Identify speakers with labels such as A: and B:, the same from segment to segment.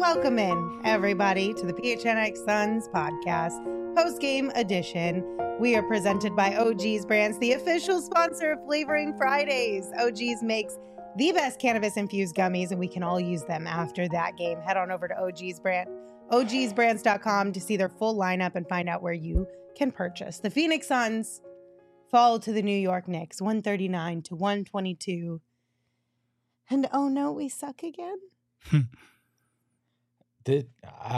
A: Welcome in, everybody, to the PHNX Suns podcast, post-game edition. We are presented by OG's Brands, the official sponsor of Flavoring Fridays. OG's makes the best cannabis-infused gummies, and we can all use them after that game. Head on over to ogsbrands.com to see their full lineup and find out where you can purchase. The Phoenix Suns fall to the New York Knicks, 139-122. And oh no, we suck again.
B: This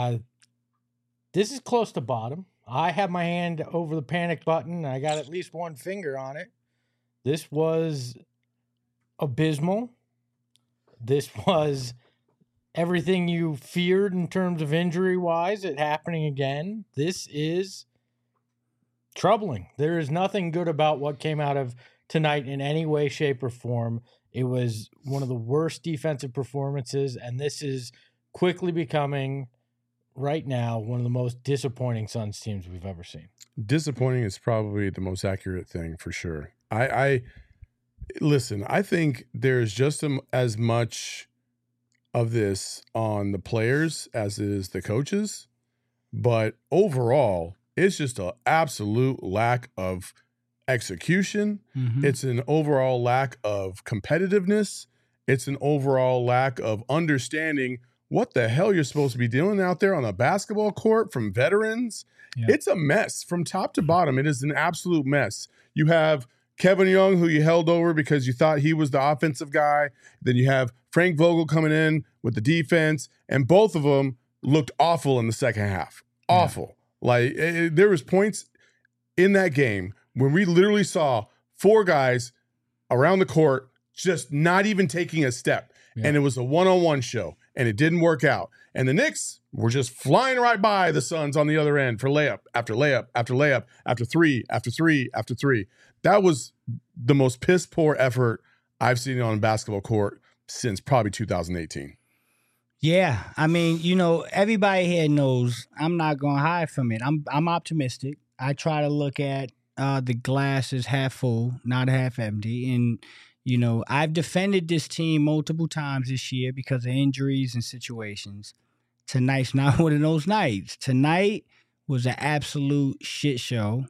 B: is close to bottom. I have my hand over the panic button. I got at least one finger on it. This was abysmal. This was everything you feared in terms of injury-wise, it happening again. This is troubling. There is nothing good about what came out of tonight in any way, shape, or form. It was one of the worst defensive performances, and this is quickly becoming, right now, one of the most disappointing Suns teams we've ever seen.
C: Disappointing is probably the most accurate thing for sure. I listen, I think there's just as much of this on the players as it is the coaches, but overall, it's just an absolute lack of execution. Mm-hmm. It's an overall lack of competitiveness. It's an overall lack of understanding what the hell you're supposed to be doing out there on a basketball court from veterans. Yeah. It's a mess from top to bottom. It is an absolute mess. You have Kevin Young, who you held over because you thought he was the offensive guy. Then you have Frank Vogel coming in with the defense, and both of them looked awful in the second half. Awful. Yeah. Like, there was points in that game when we literally saw four guys around the court just not even taking a step. Yeah. And it was a one-on-one show, and it didn't work out. And the Knicks were just flying right by the Suns on the other end for layup after layup after layup after three after three after three. That was the most piss-poor effort I've seen on a basketball court since probably 2018.
D: Yeah, I mean, you know, everybody here knows I'm not going to hide from it. I'm optimistic. I try to look at the glass is half full, not half empty. And, you know, I've defended this team multiple times this year because of injuries and situations. Tonight's not one of those nights. Tonight was an absolute shit show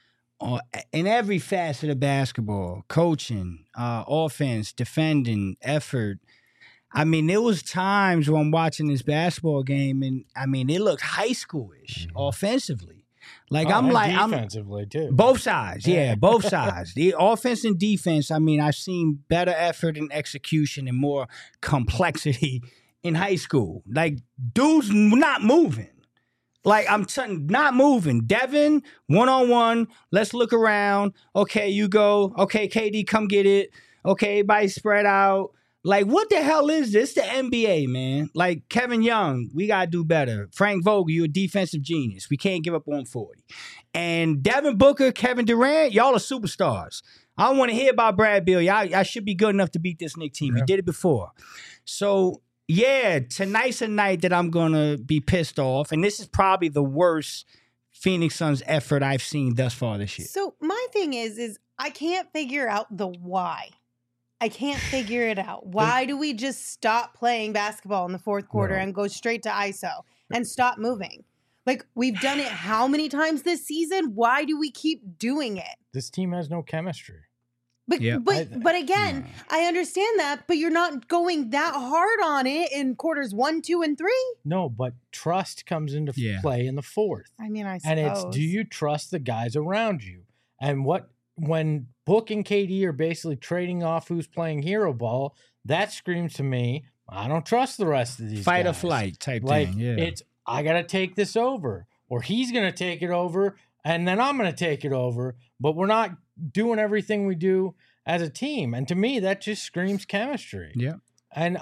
D: in every facet of basketball, coaching, offense, defending, effort. I mean, there was times when I'm watching this basketball game, and I mean, it looked high schoolish offensively. Like
B: defensively too.
D: Both sides, both sides. The offense and defense. I mean, I've seen better effort and execution and more complexity in high school. Like, dudes not moving. Like, I'm not moving. Devin, one-on-one, let's look around. Okay, you go. Okay, KD, come get it. Okay, everybody spread out. Like, what the hell is this? The NBA, man. Like, Kevin Young, we got to do better. Frank Vogel, you're a defensive genius. We can't give up on 40. And Devin Booker, Kevin Durant, y'all are superstars. I don't want to hear about Brad Beal. I should be good enough to beat this Knicks team. We did it before. So, yeah, tonight's a night that I'm going to be pissed off. And this is probably the worst Phoenix Suns effort I've seen thus far this year.
A: So my thing is I can't figure out the why. I can't figure it out. Why do we just stop playing basketball in the fourth quarter and go straight to ISO and stop moving? Like, we've done it how many times this season? Why do we keep doing it?
B: This team has no chemistry.
A: But again, I understand that, but you're not going that hard on it in quarters 1, 2, and 3.
B: No, but trust comes into play in the fourth.
A: I mean, I suppose.
B: And it's, do you trust the guys around you? And when Book and KD are basically trading off who's playing hero ball, that screams to me, I don't trust the rest of these
D: Fight
B: guys.
D: or flight type
B: like,
D: thing. Yeah.
B: It's, I got to take this over, or he's going to take it over, and then I'm going to take it over, but we're not doing everything we do as a team. And to me, that just screams chemistry.
D: Yeah.
B: And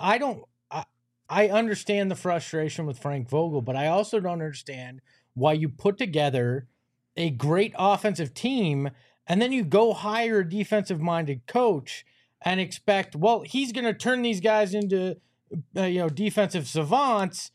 B: I understand the frustration with Frank Vogel, but I also don't understand why you put together a great offensive team and then you go hire a defensive-minded coach and expect, well, he's going to turn these guys into, defensive savants.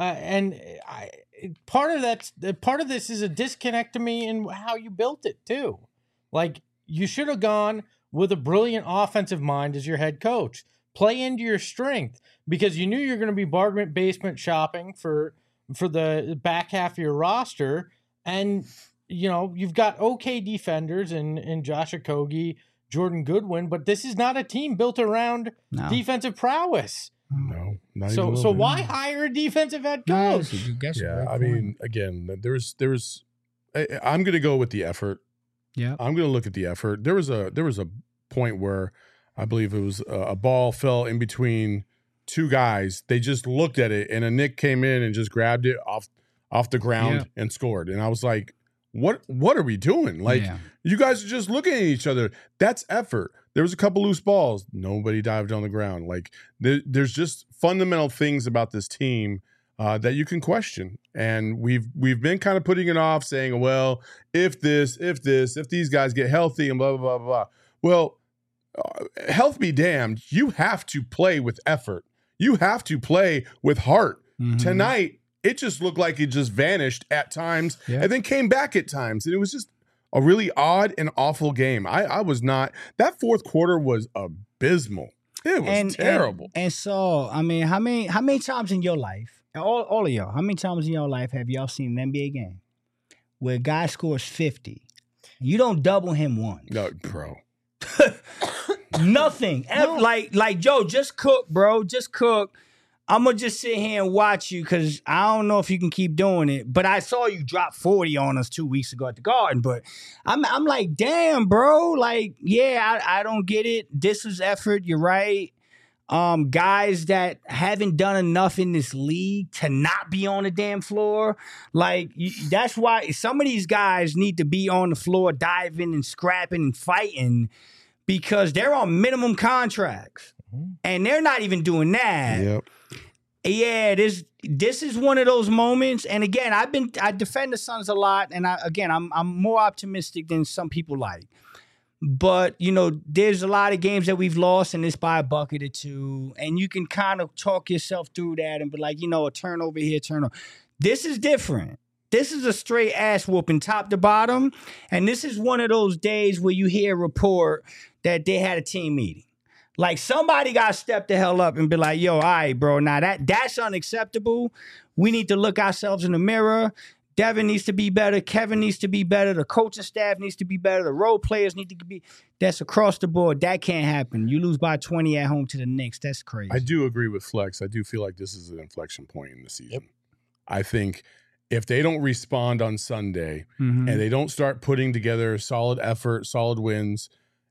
B: Part of this is a disconnect to me in how you built it too. Like, you should have gone with a brilliant offensive mind as your head coach. play into your strength because you knew you're going to be bargain basement shopping for the back half of your roster. And, you've got okay defenders in Josh Okogie, Jordan Goodwin, but this is not a team built around defensive prowess.
C: No, not
B: so
C: even
B: so why hire a defensive head coach?
C: Yeah, I mean, again, there's I'm going to go with the effort.
D: Yeah,
C: I'm going to look at the effort. There was a point where I believe it was a ball fell in between two guys. They just looked at it, and a Nick came in and just grabbed it off the ground and scored. And I was like, what are we doing? Like, you guys are just looking at each other. That's effort. There was a couple loose balls. Nobody dived on the ground. Like, there's just fundamental things about this team that you can question. And we've been kind of putting it off, saying, well, if these guys get healthy and blah, blah, blah, blah. Well, health be damned. You have to play with effort. You have to play with heart. Mm-hmm. Tonight, it just looked like it just vanished at times and then came back at times. And it was just a really odd and awful game. I was not – that fourth quarter was abysmal. It was terrible.
D: And so, I mean, how many times in your life, all of y'all, how many times in your life have y'all seen an NBA game where a guy scores 50 and you don't double him once?
C: No, bro.
D: Nothing. No. Like, Joe, just cook, bro. Just cook. I'm going to just sit here and watch you because I don't know if you can keep doing it. But I saw you drop 40 on us 2 weeks ago at the Garden. But I'm like, damn, bro. Like, yeah, I don't get it. This is effort. You're right. Guys that haven't done enough in this league to not be on the damn floor. Like, that's why some of these guys need to be on the floor diving and scrapping and fighting because they're on minimum contracts. And they're not even doing that.
C: Yep.
D: Yeah, this is one of those moments. And again, I defend the Suns a lot, and I'm more optimistic than some people like. But there's a lot of games that we've lost, and it's by a bucket or two, and you can kind of talk yourself through that and be like, a turnover here, turnover. This is different. This is a straight ass whooping, top to bottom, and this is one of those days where you hear a report that they had a team meeting. Like, somebody got to step the hell up and be like, yo, all right, bro, now that's unacceptable. We need to look ourselves in the mirror. Devin needs to be better. Kevin needs to be better. The coaching staff needs to be better. The role players need to be. That's across the board. That can't happen. You lose by 20 at home to the Knicks. That's crazy.
C: I do agree with Flex. I do feel like this is an inflection point in the season. Yep. I think if they don't respond on Sunday and they don't start putting together solid effort, solid wins,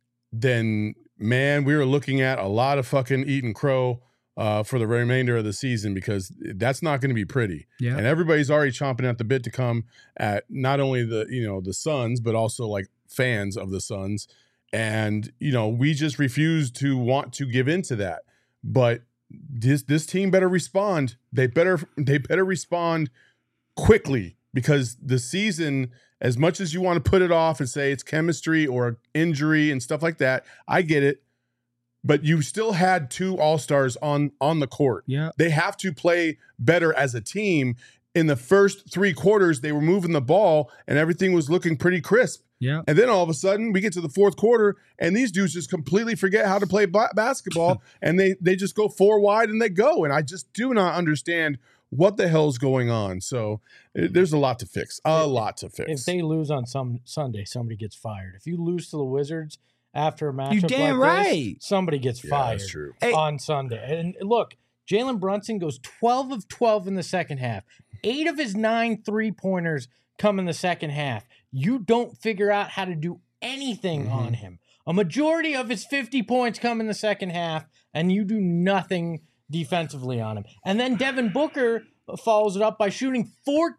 C: then – man, we were looking at a lot of fucking eating crow for the remainder of the season because that's not going to be pretty. Yeah. And everybody's already chomping at the bit to come at not only the Suns, but also like fans of the Suns. And, we just refuse to want to give into that. But this team better respond. They better respond quickly because the season, as much as you want to put it off and say it's chemistry or injury and stuff like that, I get it. But you still had two all-stars on the court.
D: Yeah.
C: They have to play better as a team. In the first 3 quarters, they were moving the ball and everything was looking pretty crisp.
D: Yeah.
C: And then all of a sudden, we get to the fourth quarter and these dudes just completely forget how to play basketball and they just go 4 wide and they go. And I just do not understand what the hell's going on. So there's a lot to fix.
B: If they lose on some Sunday, somebody gets fired. If you lose to the Wizards after a matchup this, somebody gets fired on Sunday. And look, Jalen Brunson goes 12 of 12 in the second half. 8 of his 9 3-pointers come in the second half. You don't figure out how to do anything on him. A majority of his 50 points come in the second half, and you do nothing defensively on him. And then Devin Booker follows it up by shooting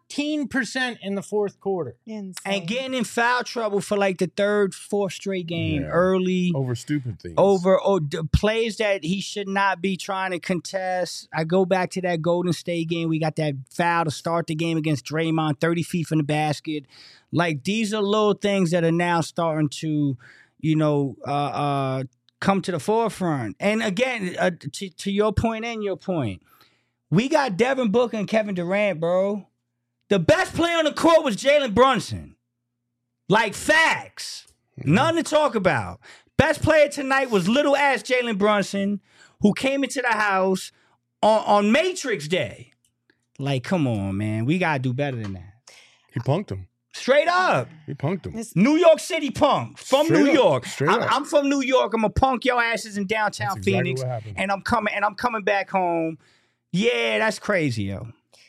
B: 14% in the fourth quarter.
A: Insane.
D: And getting in foul trouble for like the 3rd, 4th straight game early.
C: Over stupid things.
D: Over plays that he should not be trying to contest. I go back to that Golden State game. We got that foul to start the game against Draymond, 30 feet from the basket. Like, these are little things that are now starting to, come to the forefront. And again, to your point and your point, we got Devin Booker and Kevin Durant, bro. The best player on the court was Jalen Brunson. Like, facts. Nothing to talk about. Best player tonight was little ass Jalen Brunson, who came into the house on Matrix Day. Like, come on, man. We got to do better than that.
C: He punked him.
D: Straight up.
C: He punked him.
D: New York City punk. From
C: Straight
D: New
C: up.
D: York.
C: Straight up.
D: I'm from New York. I'm a punk your asses in downtown
C: That's exactly
D: Phoenix.
C: what happened.
D: And I'm coming back home. Yeah, that's crazy, yo.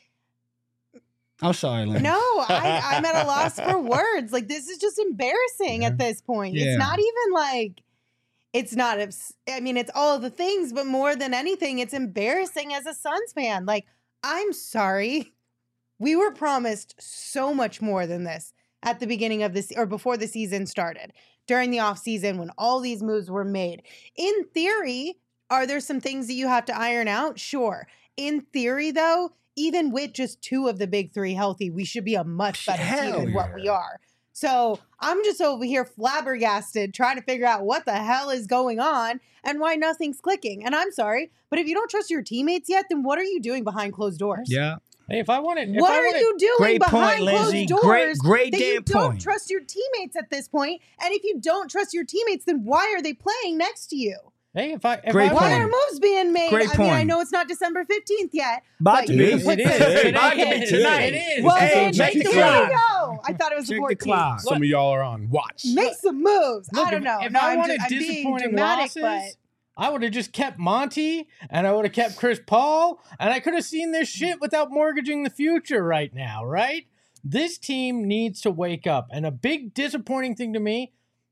D: I'm sorry, Lynn.
A: No, I'm at a loss for words. Like, this is just embarrassing at this point.
D: Yeah.
A: It's not even like, it's not, I mean, it's all of the things, but more than anything, it's embarrassing as a Suns fan. Like, I'm sorry. We were promised so much more than this at the beginning of this, or before the season started, during the offseason when all these moves were made. In theory, are there some things that you have to iron out? Sure. In theory, though, even with just 2 of the big 3 healthy, we should be a much better team than what we are. So I'm just over here flabbergasted trying to figure out what the hell is going on and why nothing's clicking. And I'm sorry, but if you don't trust your teammates yet, then what are you doing behind closed doors?
D: Yeah.
B: Hey, if I wanted,
A: What are you doing
D: Great
A: behind
D: point, Lindsay.
A: closed doors
D: Great
A: that you
D: damn
A: don't
D: point.
A: trust your teammates at this point? And if you don't trust your teammates, then why are they playing next to you?
B: Hey, if I
D: Great
B: wanted-
A: Why
D: point.
A: are moves being made?
D: Great
A: I mean, I
D: point.
A: know it's not December 15th yet.
D: About
A: but
D: to
A: you
D: be.
A: can
B: It
A: put
B: is.
A: some-
B: It
D: About to be
B: is.
D: tonight.
B: It is.
A: Well,
D: Hey,
A: then
D: check
A: there
D: the
A: you
D: clock.
A: go. I thought it was
D: Check
A: the
D: the
A: 14th.
D: clock.
C: Some of y'all are on watch.
A: Make some moves.
B: Look,
A: I don't know.
B: If
A: No,
B: I
A: I'm
B: wanted
A: being
B: disappointing
A: dramatic,
B: losses, I would have just kept Monty, and I would have kept Chris Paul, and I could have seen this shit without mortgaging the future right now, right? This team needs to wake up. And a big disappointing thing to me,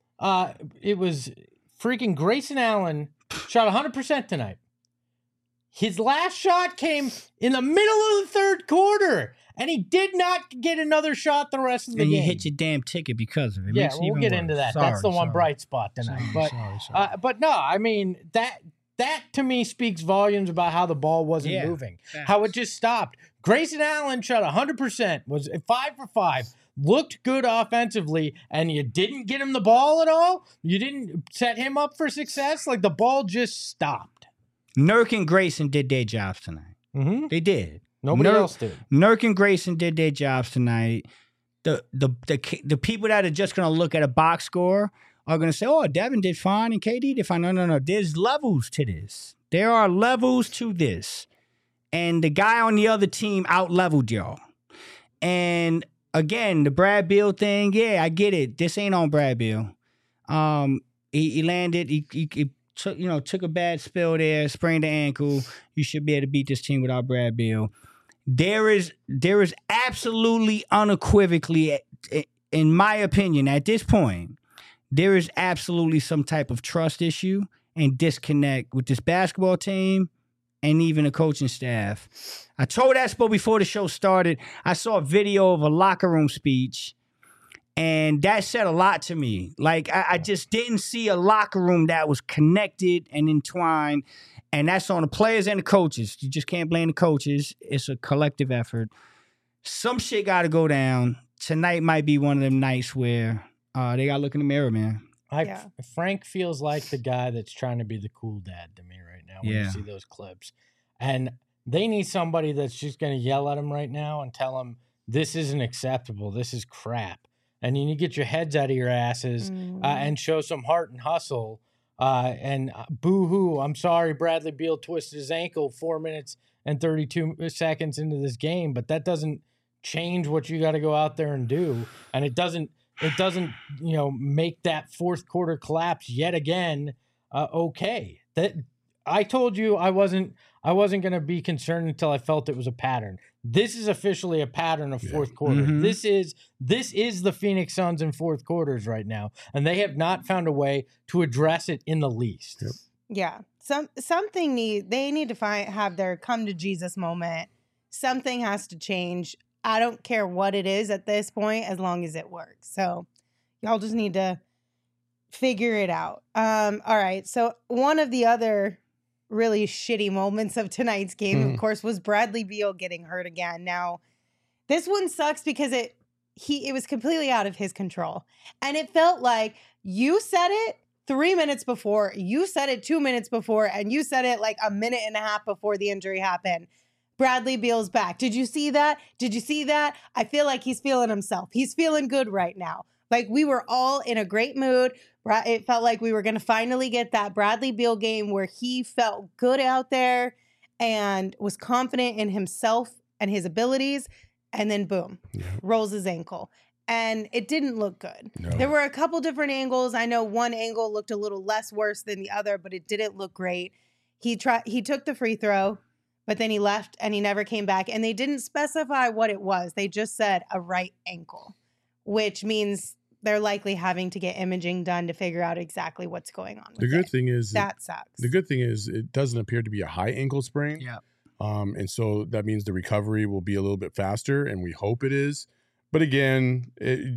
B: it was freaking Grayson Allen shot 100% tonight. His last shot came in the middle of the third quarter, and he did not get another shot the rest of the
D: And
B: game.
D: you hit your damn ticket because of it.
B: Yeah,
D: Makes it
B: we'll
D: even
B: get
D: worse.
B: into that.
D: Sorry,
B: That's the one
D: sorry.
B: bright spot tonight.
D: Sorry.
B: But no, I mean that to me speaks volumes about how the ball wasn't
D: Yeah,
B: moving,
D: facts.
B: how it just stopped. Grayson Allen shot 100%, was 5 for 5, looked good offensively, and you didn't get him the ball at all. You didn't set him up for success. Like, the ball just stopped.
D: Nurk and Grayson did their jobs tonight.
B: Mm-hmm.
D: They did.
B: Nobody
D: Nurk-
B: else did.
D: Nurk and Grayson did their jobs tonight. The people that are just going to look at a box score are going to say, oh, Devin did fine and KD did fine. No. There's levels to this. There are levels to this. And the guy on the other team out-leveled y'all. And again, the Brad Beal thing, yeah, I get it. This ain't on Brad Beal. He landed, he took a bad spill there, sprained the ankle. You should be able to beat this team without Brad Beal. There is absolutely unequivocally, in my opinion, at this point, there is absolutely some type of trust issue and disconnect with this basketball team and even the coaching staff. I told Espo before the show started, I saw a video of a locker room speech, and that said a lot to me. Like, I just didn't see a locker room that was connected and entwined, and that's on the players and the coaches. You just can't blame the coaches. It's a collective effort. Some shit got to go down. Tonight might be one of them nights where they got to look in the mirror, man.
A: Yeah.
B: Frank feels like the guy that's trying to be the cool dad to me right now when you see those clips. And they need somebody that's just going to yell at him right now and tell him, this isn't acceptable. This is crap. And you need to get your heads out of your asses and show some heart and hustle. And boo-hoo, I'm sorry Bradley Beal twisted his ankle 4 minutes and 32 seconds into this game, but that doesn't change what you got to go out there and do. And it doesn't, make that fourth quarter collapse yet again okay. That I told you I wasn't going to be concerned until I felt it was a pattern. This is officially a pattern of fourth quarter.
D: Mm-hmm.
B: This is the Phoenix Suns in fourth quarters right now, and they have not found a way to address it in the least.
C: Yep.
A: Yeah. They need to have their come to Jesus moment. Something has to change. I don't care what it is at this point, as long as it works. So y'all just need to figure it out. All right. So one of the other really shitty moments of tonight's game, of course, was Bradley Beal getting hurt again. Now, this one sucks because it was completely out of his control. And it felt like you said it 3 minutes before, you said it 2 minutes before, and you said it like a minute and a half before the injury happened. Bradley Beal's back. Did you see that? I feel like he's feeling himself. He's feeling good right now. Like, we were all in a great mood. It felt like we were going to finally get that Bradley Beal game where he felt good out there and was confident in himself and his abilities. And then, boom, rolls his ankle. And it didn't look good.
C: No.
A: There were a couple different angles. I know one angle looked a little less worse than the other, but it didn't look great. He took the free throw, but then he left and he never came back. And they didn't specify what it was. They just said a right ankle, which means they're likely having to get imaging done to figure out exactly what's going on.
C: The good thing is
A: that sucks.
C: The good thing is it doesn't appear to be a high ankle sprain.
D: Yeah.
C: And so that means the recovery will be a little bit faster, and we hope it is. But again,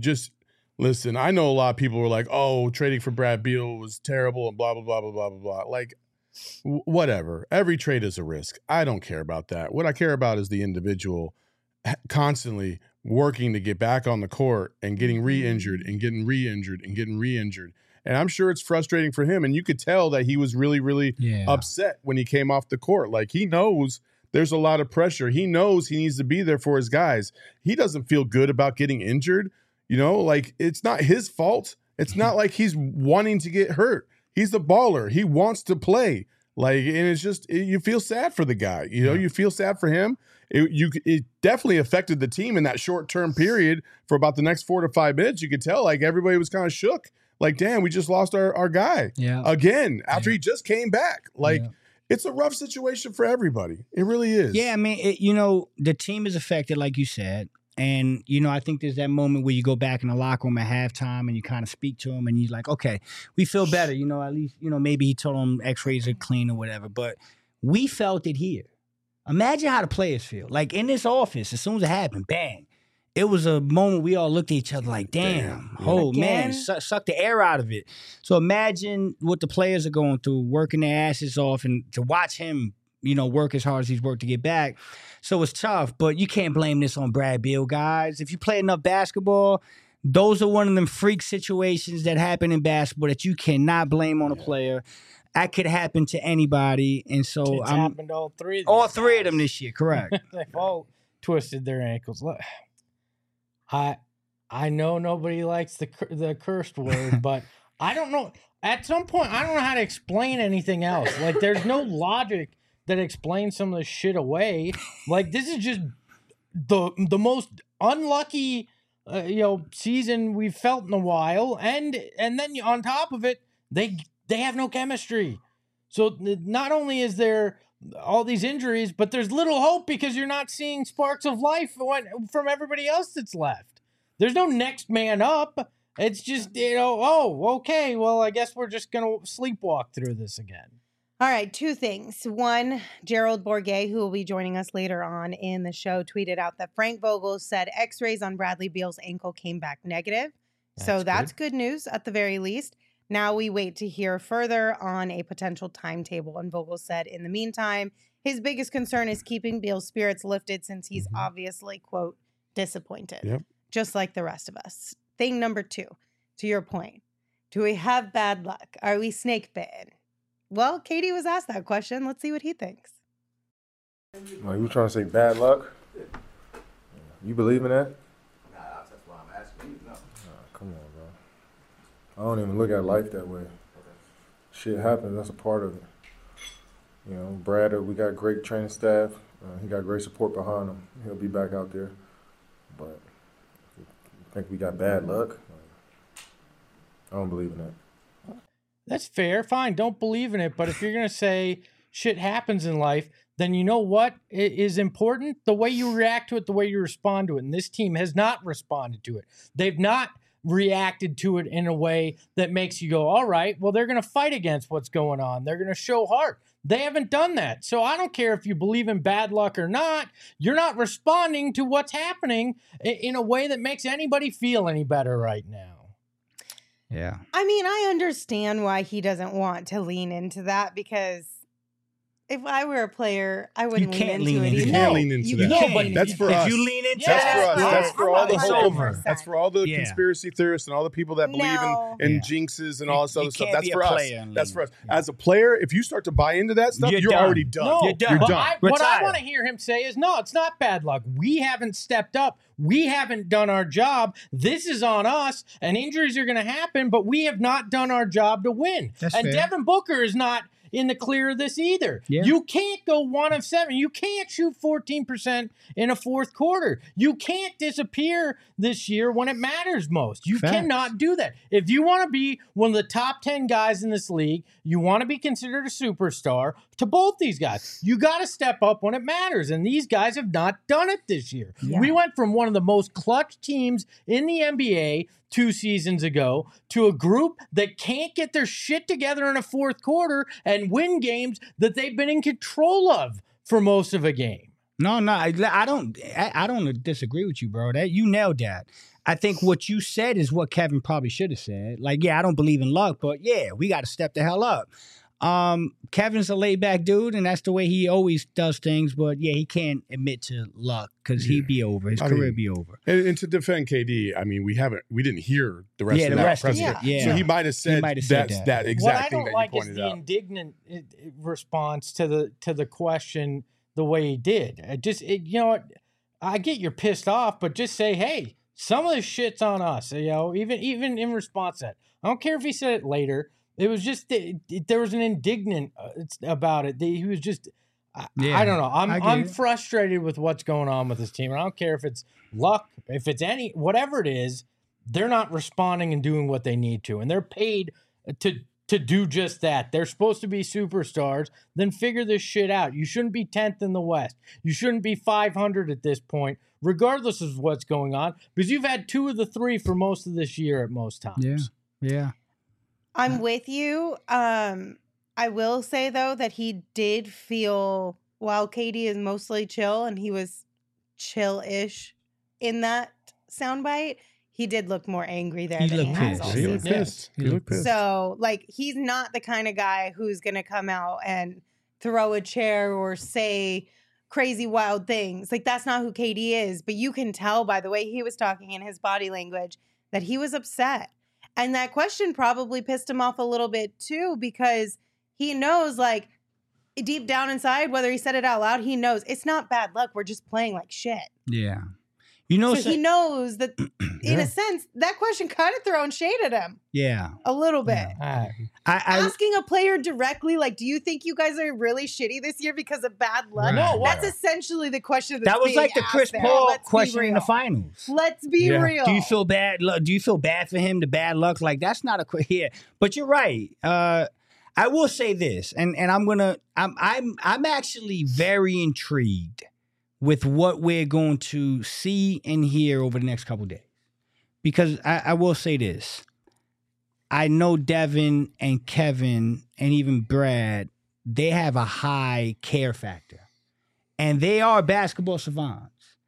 C: listen, I know a lot of people were like, oh, trading for Brad Beal was terrible and blah, blah, blah, blah, blah, blah, blah. Like, whatever. Every trade is a risk. I don't care about that. What I care about is the individual constantly working to get back on the court and getting re-injured and getting re-injured and getting re-injured. And I'm sure it's frustrating for him. And you could tell that he was really, really upset when he came off the court. Like, he knows there's a lot of pressure. He knows he needs to be there for his guys. He doesn't feel good about getting injured. You know, like, it's not his fault. It's not like he's wanting to get hurt. He's the baller. He wants to play. Like, and it's just, you feel sad for the guy. You know, you feel sad for him. It definitely affected the team in that short-term period for about the next 4 to 5 minutes. You could tell, like, everybody was kind of shook. Like, damn, we just lost our guy again after he just came back. Like, it's a rough situation for everybody. It really is.
D: Yeah, I mean, the team is affected, like you said. And, I think there's that moment where you go back in the locker room at halftime and you kind of speak to him and you're like, okay, we feel better. At least, maybe he told him x-rays are clean or whatever. But we felt it here. Imagine how the players feel. Like, in this office, as soon as it happened, bang. It was a moment we all looked at each other like, damn, man, suck the air out of it. So imagine what the players are going through, working their asses off, and to watch him, work as hard as he's worked to get back. So it's tough, but you can't blame this on Brad Beal, guys. If you play enough basketball, those are one of them freak situations that happen in basketball that you cannot blame on a player. That could happen to anybody. And so
B: it's happened to all three of them.
D: All three of them this year, correct.
B: They've all twisted their ankles. Look, I know nobody likes the cursed word, but I don't know. At some point, I don't know how to explain anything else. Like, there's no logic that explains some of this shit away. Like, this is just the most unlucky season we've felt in a while, and then on top of it, they have no chemistry. So not only is there all these injuries, but there's little hope because you're not seeing sparks of life from everybody else that's left. There's no next man up. It's just, okay, well, I guess we're just going to sleepwalk through this again.
A: All right, 2 things. One, Gerald Bourguet, who will be joining us later on in the show, tweeted out that Frank Vogel said x-rays on Bradley Beal's ankle came back negative. That's good news at the very least. Now we wait to hear further on a potential timetable. And Vogel said, in the meantime, his biggest concern is keeping Beal's spirits lifted since he's obviously, quote, disappointed, just like the rest of us. Thing number 2, to your point, do we have bad luck? Are we snake bitten? Well, Katie was asked that question. Let's see what he thinks.
E: Like, you trying to say bad luck? You believe in that?
F: Nah, that's why I'm asking you. No.
E: Come on, bro. I don't even look at life that way. Shit happens. That's a part of it. Brad, we got great training staff. He got great support behind him. He'll be back out there. But I think we got bad luck. I don't believe in that.
B: That's fair. Fine. Don't believe in it. But if you're going to say shit happens in life, then you know what is important? The way you react to it, the way you respond to it. And this team has not responded to it. They've not reacted to it in a way that makes you go, all right, well, they're going to fight against what's going on. They're going to show heart. They haven't done that. So I don't care if you believe in bad luck or not. You're not responding to what's happening in a way that makes anybody feel any better right now.
D: Yeah.
A: I mean, I understand why he doesn't want to lean into that because If I were a player, I wouldn't
D: can't
A: lean
D: lean
A: into it.
D: into
C: You
A: either.
C: can't lean into
A: You
C: that.
A: can't.
B: but
C: That's for us.
D: If you lean into
C: That's for
A: Yeah,
C: us.
A: yeah.
C: That's for all the
D: It's
C: whole.
D: over.
C: That's for all the
D: Yeah.
C: conspiracy theorists and all the people that believe
A: No.
C: in
D: Yeah.
C: jinxes and all this
D: You
C: other stuff.
D: can't
C: That's
D: be a
C: for us.
D: player and
C: That's
D: lean.
C: for us.
D: Yeah.
C: As a player, if you start to buy into that stuff,
D: You're
C: you're
D: done.
C: already done.
B: No,
D: You're done.
C: You're
B: but
C: done.
B: what I
D: Retire.
B: want to hear him say is, no, it's not bad luck. We haven't stepped up. We haven't done our job. This is on us, and injuries are going to happen, but we have not done our job to win.
D: That's
B: and
D: fair.
B: Devin Booker is not in the clear of this either.
D: Yeah.
B: You can't go 1 of 7. You can't shoot 14% in a fourth quarter. You can't disappear this year when it matters most. You
D: Facts.
B: cannot do that. If you want to be one of the top 10 guys in this league, you want to be considered a superstar to both these guys. You got to step up when it matters, and these guys have not done it this year.
A: Yeah.
B: We went from one of the most clutch teams in the NBA 2 seasons ago to a group that can't get their shit together in a fourth quarter and win games that they've been in control of for most of a game.
D: No, I don't disagree with you, bro. That you nailed that. I think what you said is what Kevin probably should have said. Like, yeah, I don't believe in luck, but yeah, we got to step the hell up. Kevin's a laid back dude, and that's the way he always does things. But yeah, he can't admit to luck because he'd be over. His career would be over.
C: And to defend KD, I mean, we didn't hear the rest
D: Yeah,
C: of
D: the
C: that
D: rest of it,
C: precedent.
D: yeah.
C: So he might have said,
D: might have said that.
C: that
B: What
C: exact
B: I
C: thing
B: don't
C: that
B: like
C: you
B: is
C: pointed
B: the
C: out.
B: indignant response to the question the way he did. You know what? I get you're pissed off, but just say, hey, some of this shit's on us. You know, even in response to that. I don't care if he said it later. It was just there was an indignant about it. He was just.
D: Yeah,
B: I don't know.
D: I get
B: I'm
D: it.
B: frustrated with what's going on with this team. And I don't care if it's luck, if it's whatever it is. They're not responding and doing what they need to, and they're paid to do just that. They're supposed to be superstars. Then figure this shit out. You shouldn't be 10th in the West. You shouldn't be 500 at this point, regardless of what's going on, because you've had 2 of the 3 for most of this year at most times.
D: Yeah.
A: I'm with you. I will say though that he did feel, while Katie is mostly chill and he was chill-ish in that soundbite, he did look more angry there
D: He
A: than
D: looked
A: he has
D: pissed.
A: all
C: He looked
A: season.
C: pissed. He looked pissed.
A: So, like, he's not the kind of guy who's going to come out and throw a chair or say crazy, wild things. Like, that's not who Katie is. But you can tell by the way he was talking in his body language that he was upset. And that question probably pissed him off a little bit, too, because he knows, like, deep down inside, whether he said it out loud, he knows it's not bad luck. We're just playing like shit.
D: Yeah. You know,
A: So he knows that, in
C: Yeah.
A: a sense, that question kind of throwing shade at him
D: yeah.
A: a little bit.
B: Ah,
D: I
A: Asking a player directly, like, do you think you guys are really shitty this year because of bad luck?
D: Right.
B: No, what-
A: That's essentially the question
D: that was
A: being
D: like the
A: asked
D: Chris
A: there.
D: Paul
A: Let's be
D: question in the
A: real.
D: finals.
A: Let's be
C: Yeah.
A: real.
D: Do you feel bad? Do you feel bad for him? The bad luck, like that's not a yeah. But you're right. I will say this, and I'm actually very intrigued with what we're going to see and hear over the next couple days, because I will say this. I know Devin and Kevin and even Brad, they have a high care factor, and they are basketball savants.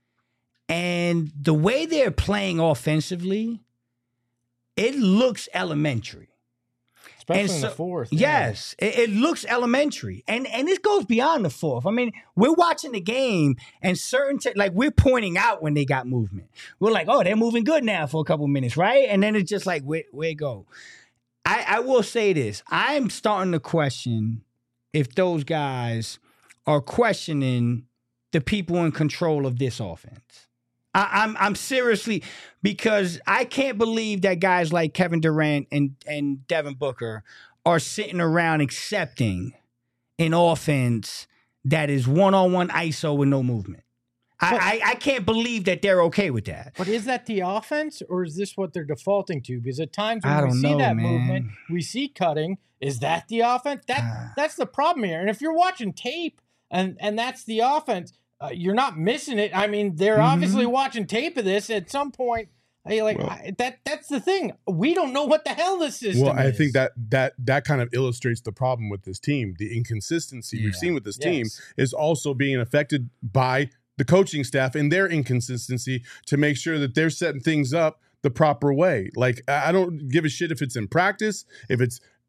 D: And the way they're playing offensively, it looks elementary.
B: especially
D: And
B: in
D: so-
B: the fourth.
D: Yes, it looks elementary, and this goes beyond the fourth. I mean, we're watching the game, and like we're pointing out when they got movement. We're like, oh, they're moving good now for a couple minutes, right? And then it's just like, where it go? I will say this: I'm starting to question if those guys are questioning the people in control of this offense. I'm seriously, because I can't believe that guys like Kevin Durant and Devin Booker are sitting around accepting an offense that is one-on-one ISO with no movement. I can't believe that they're okay with that.
B: But is that the offense, or is this what they're defaulting to? Because at times
D: I
B: when we
D: don't
B: see
D: know,
B: that
D: man.
B: movement, we see cutting. Is that the offense? That's the problem here. And if you're watching tape and that's the offense, you're not missing it. I mean, they're obviously watching tape of this at some point. That's the thing. We don't know what the hell this system
C: Well, I
B: is.
C: think that kind of illustrates the problem with this team. The inconsistency we've seen with this team
B: Yes.
C: is also being affected by the coaching staff and their inconsistency to make sure that they're setting things up the proper way. Like, I don't give a shit if it's in practice, if it's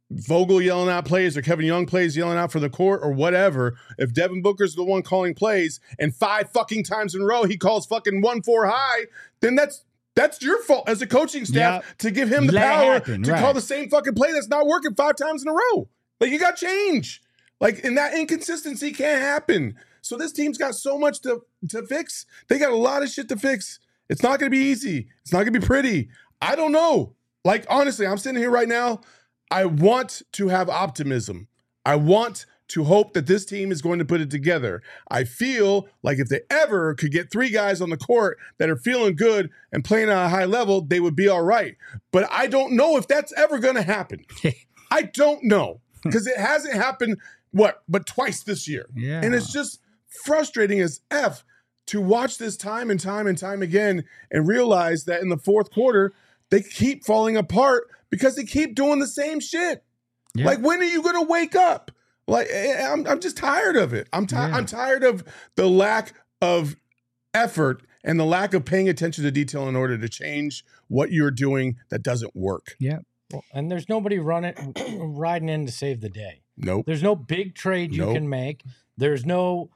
C: Vogel yelling out plays or Kevin Young plays yelling out for the court or whatever, if Devin Booker's the one calling plays and 5 fucking times in a row he calls fucking 1-4 high, then that's your fault as a coaching staff to give him the power to call the same fucking play that's not working 5 times in a row. Like, you got change. Like, and that inconsistency can't happen. So this team's got so much to fix. They got a lot of shit to fix. It's not going to be easy. It's not going to be pretty. I don't know. Like, honestly, I'm sitting here right now. I want to have optimism. I want to hope that this team is going to put it together. I feel like if they ever could get 3 guys on the court that are feeling good and playing at a high level, they would be all right. But I don't know if that's ever going to happen. I don't know, because it hasn't happened, but twice this year.
D: Yeah.
C: And it's just frustrating as F to watch this time and time and time again and realize that in the fourth quarter, they keep falling apart because they keep doing the same shit. Yeah. Like, when are you going to wake up? Like, I'm just tired of it. I'm tired of the lack of effort and the lack of paying attention to detail in order to change what you're doing that doesn't work.
D: Yeah.
B: Well, and there's nobody riding in to save the day.
C: Nope.
B: There's no big trade you can make. There's no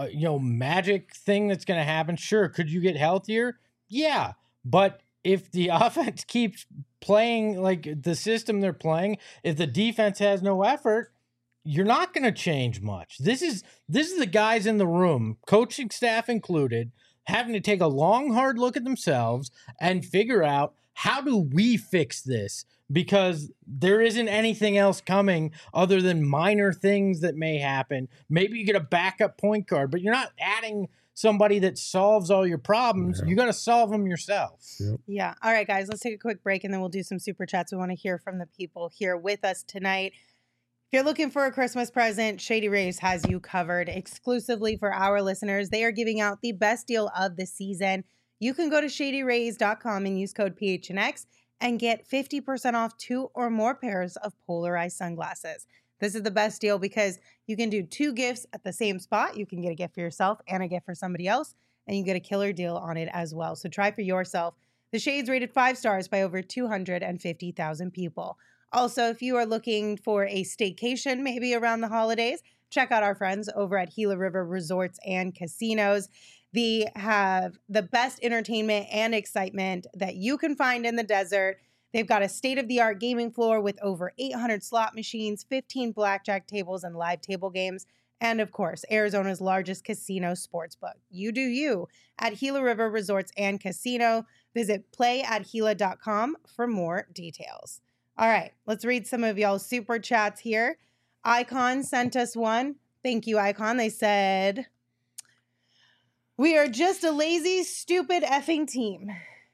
B: magic thing that's going to happen. Sure, could you get healthier? Yeah, but if the offense keeps playing like the system they're playing, if the defense has no effort, you're not going to change much. This is the guys in the room, coaching staff included, having to take a long, hard look at themselves and figure out, how do we fix this? Because there isn't anything else coming other than minor things that may happen. Maybe you get a backup point guard, but you're not adding somebody that solves all your problems. You're going to solve them yourself.
C: Yep.
A: Yeah. All right, guys, let's take a quick break and then we'll do some super chats. We want to hear from the people here with us tonight. If you're looking for a Christmas present, Shady Rays has you covered exclusively for our listeners. They are giving out the best deal of the season. You can go to shadyrays.com and use code PHNX and get 50% off 2 or more pairs of polarized sunglasses. This is the best deal because you can do 2 gifts at the same spot. You can get a gift for yourself and a gift for somebody else, and you get a killer deal on it as well. So try for yourself. The Shades rated 5 stars by over 250,000 people. Also, if you are looking for a staycation maybe around the holidays, check out our friends over at Gila River Resorts and Casinos. They have the best entertainment and excitement that you can find in the desert. They've got a state-of-the-art gaming floor with over 800 slot machines, 15 blackjack tables, and live table games. And, of course, Arizona's largest casino sportsbook. You do you at Gila River Resorts and Casino. Visit playatgila.com for more details. All right, let's read some of y'all's super chats here. Icon sent us one. Thank you, Icon. They said, "We are just a lazy, stupid effing team."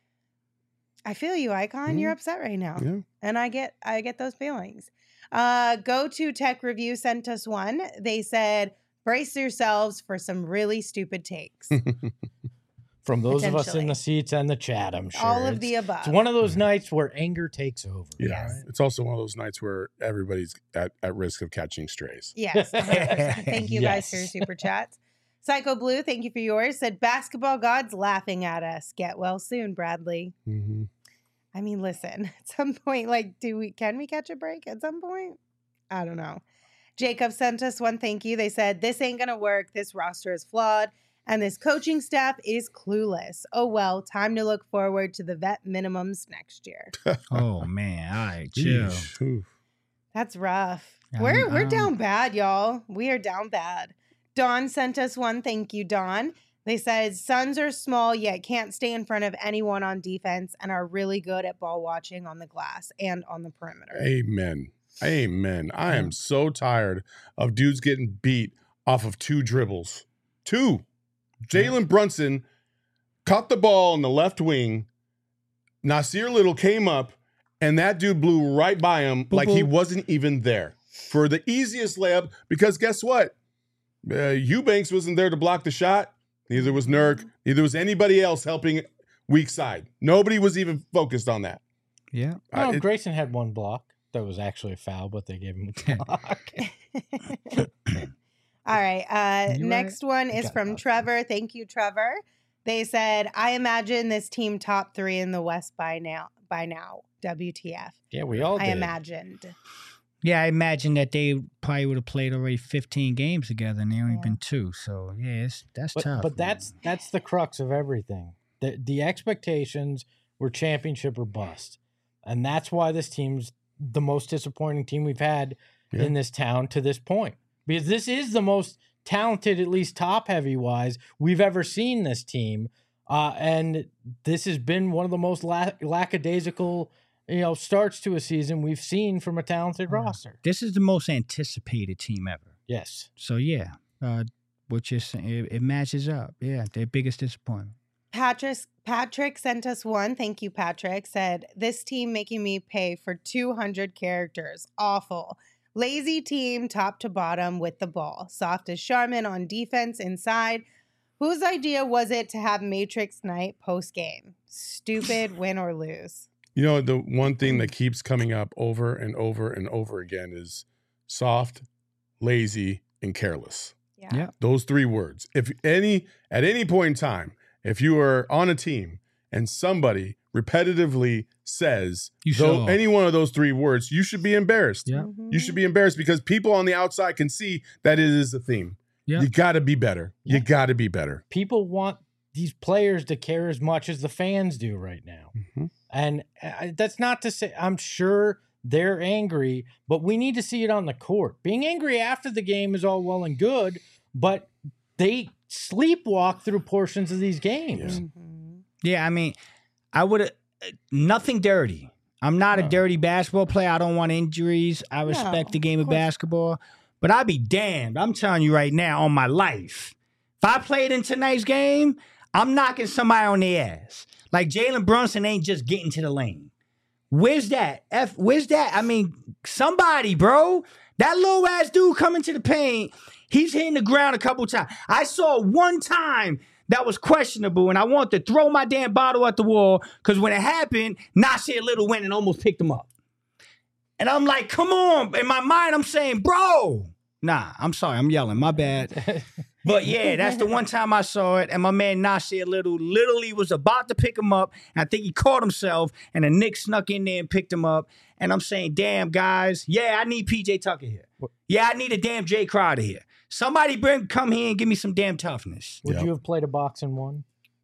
A: I feel you, Icon. You're upset right now.
C: Yeah.
A: And I get those feelings. Go to Tech Review sent us one. They said, "Brace yourselves for some really stupid takes."
B: From those of us in the seats and the chat, I'm sure.
A: All of the above.
B: It's one of those nights where anger takes over.
C: Yeah.
A: Yes.
C: It's also one of those nights where everybody's at risk of catching strays.
A: Yes. 100%. Thank you guys for your super chats. Psycho Blue, thank you for yours. Said, "Basketball gods laughing at us. Get well soon, Bradley."
C: Mm-hmm.
A: I mean, listen, at some point, like, can we catch a break at some point? I don't know. Jacob sent us one thank you. They said, "This ain't going to work. This roster is flawed. And this coaching staff is clueless. Oh, well, time to look forward to the vet minimums next year."
D: Oh, man. All right, chill.
C: Oof.
A: That's rough. We're down bad, y'all. We are down bad. Dawn sent us one. Thank you, Dawn. They said, "Suns are small, yet can't stay in front of anyone on defense and are really good at ball watching on the glass and on the perimeter."
C: Amen. Amen. I am so tired of dudes getting beat off of 2 dribbles. 2. Jalen Brunson caught the ball on the left wing. Nasir Little came up, and that dude blew right by him like he wasn't even there for the easiest layup, because guess what? Eubanks wasn't there to block the shot. Neither was Nurk. Neither was anybody else helping weak side. Nobody was even focused on that.
D: Yeah.
B: Grayson had one block that was actually a foul, but they gave him a block.
A: All right. Next one is from Trevor. Thank you, Trevor. They said, "I imagine this team top 3 in the West by now. WTF?"
B: Yeah, we all did.
A: I imagined.
D: Yeah, I imagine that they probably would have played already 15 games together, and they only been 2. So yeah, that's tough.
B: But that's the crux of everything. The expectations were championship or bust, and that's why this team's the most disappointing team we've had in this town to this point. Because this is the most talented, at least top heavy wise, we've ever seen this team, and this has been one of the most lackadaisical starts to a season we've seen from a talented roster.
D: This is the most anticipated team ever.
B: Yes.
D: So yeah, what you're saying, it matches up. Yeah, their biggest disappointment.
A: Patrick sent us one. Thank you, Patrick. Said, this team making me pay for 200 characters. Awful. Lazy team top to bottom with the ball. Soft as Charmin on defense inside. Whose idea was it to have Matrix night post game? Stupid, win or lose.
C: The one thing that keeps coming up over and over and over again is soft, lazy, and careless.
A: Yeah.
C: Those 3 words. At any point in time, if you are on a team and somebody repetitively says any one of those 3 words, you should be embarrassed.
D: Yeah.
C: You should be embarrassed because people on the outside can see that it is a theme.
D: Yeah.
C: You got to be better. You got to be better.
B: People want these players to care as much as the fans do right now.
C: Mm-hmm.
B: And that's not to say, I'm sure they're angry, but we need to see it on the court. Being angry after the game is all well and good, but they sleepwalk through portions of these games.
D: Yeah, I mean, I would have nothing dirty. I'm not a dirty basketball player. I don't want injuries. I respect the game of basketball. But I'd be damned. I'm telling you right now on my life. If I played in tonight's game, I'm knocking somebody on the ass. Like Jalen Brunson ain't just getting to the lane. Where's that? Where's that? I mean, somebody, bro. That little ass dude coming to the paint, he's hitting the ground a couple times. I saw one time that was questionable, and I wanted to throw my damn bottle at the wall because when it happened, Nasir Little went and almost picked him up. And I'm like, come on. In my mind, I'm saying, bro. Nah, I'm sorry. I'm yelling. My bad. But yeah, that's the one time I saw it. And my man Nasir Little literally was about to pick him up. And I think he caught himself. And the Knicks snuck in there and picked him up. And I'm saying, damn, guys. Yeah, I need PJ Tucker here. Yeah, I need a damn Jay Crowder here. Somebody come here and give me some damn toughness.
B: Would you have played a boxing one?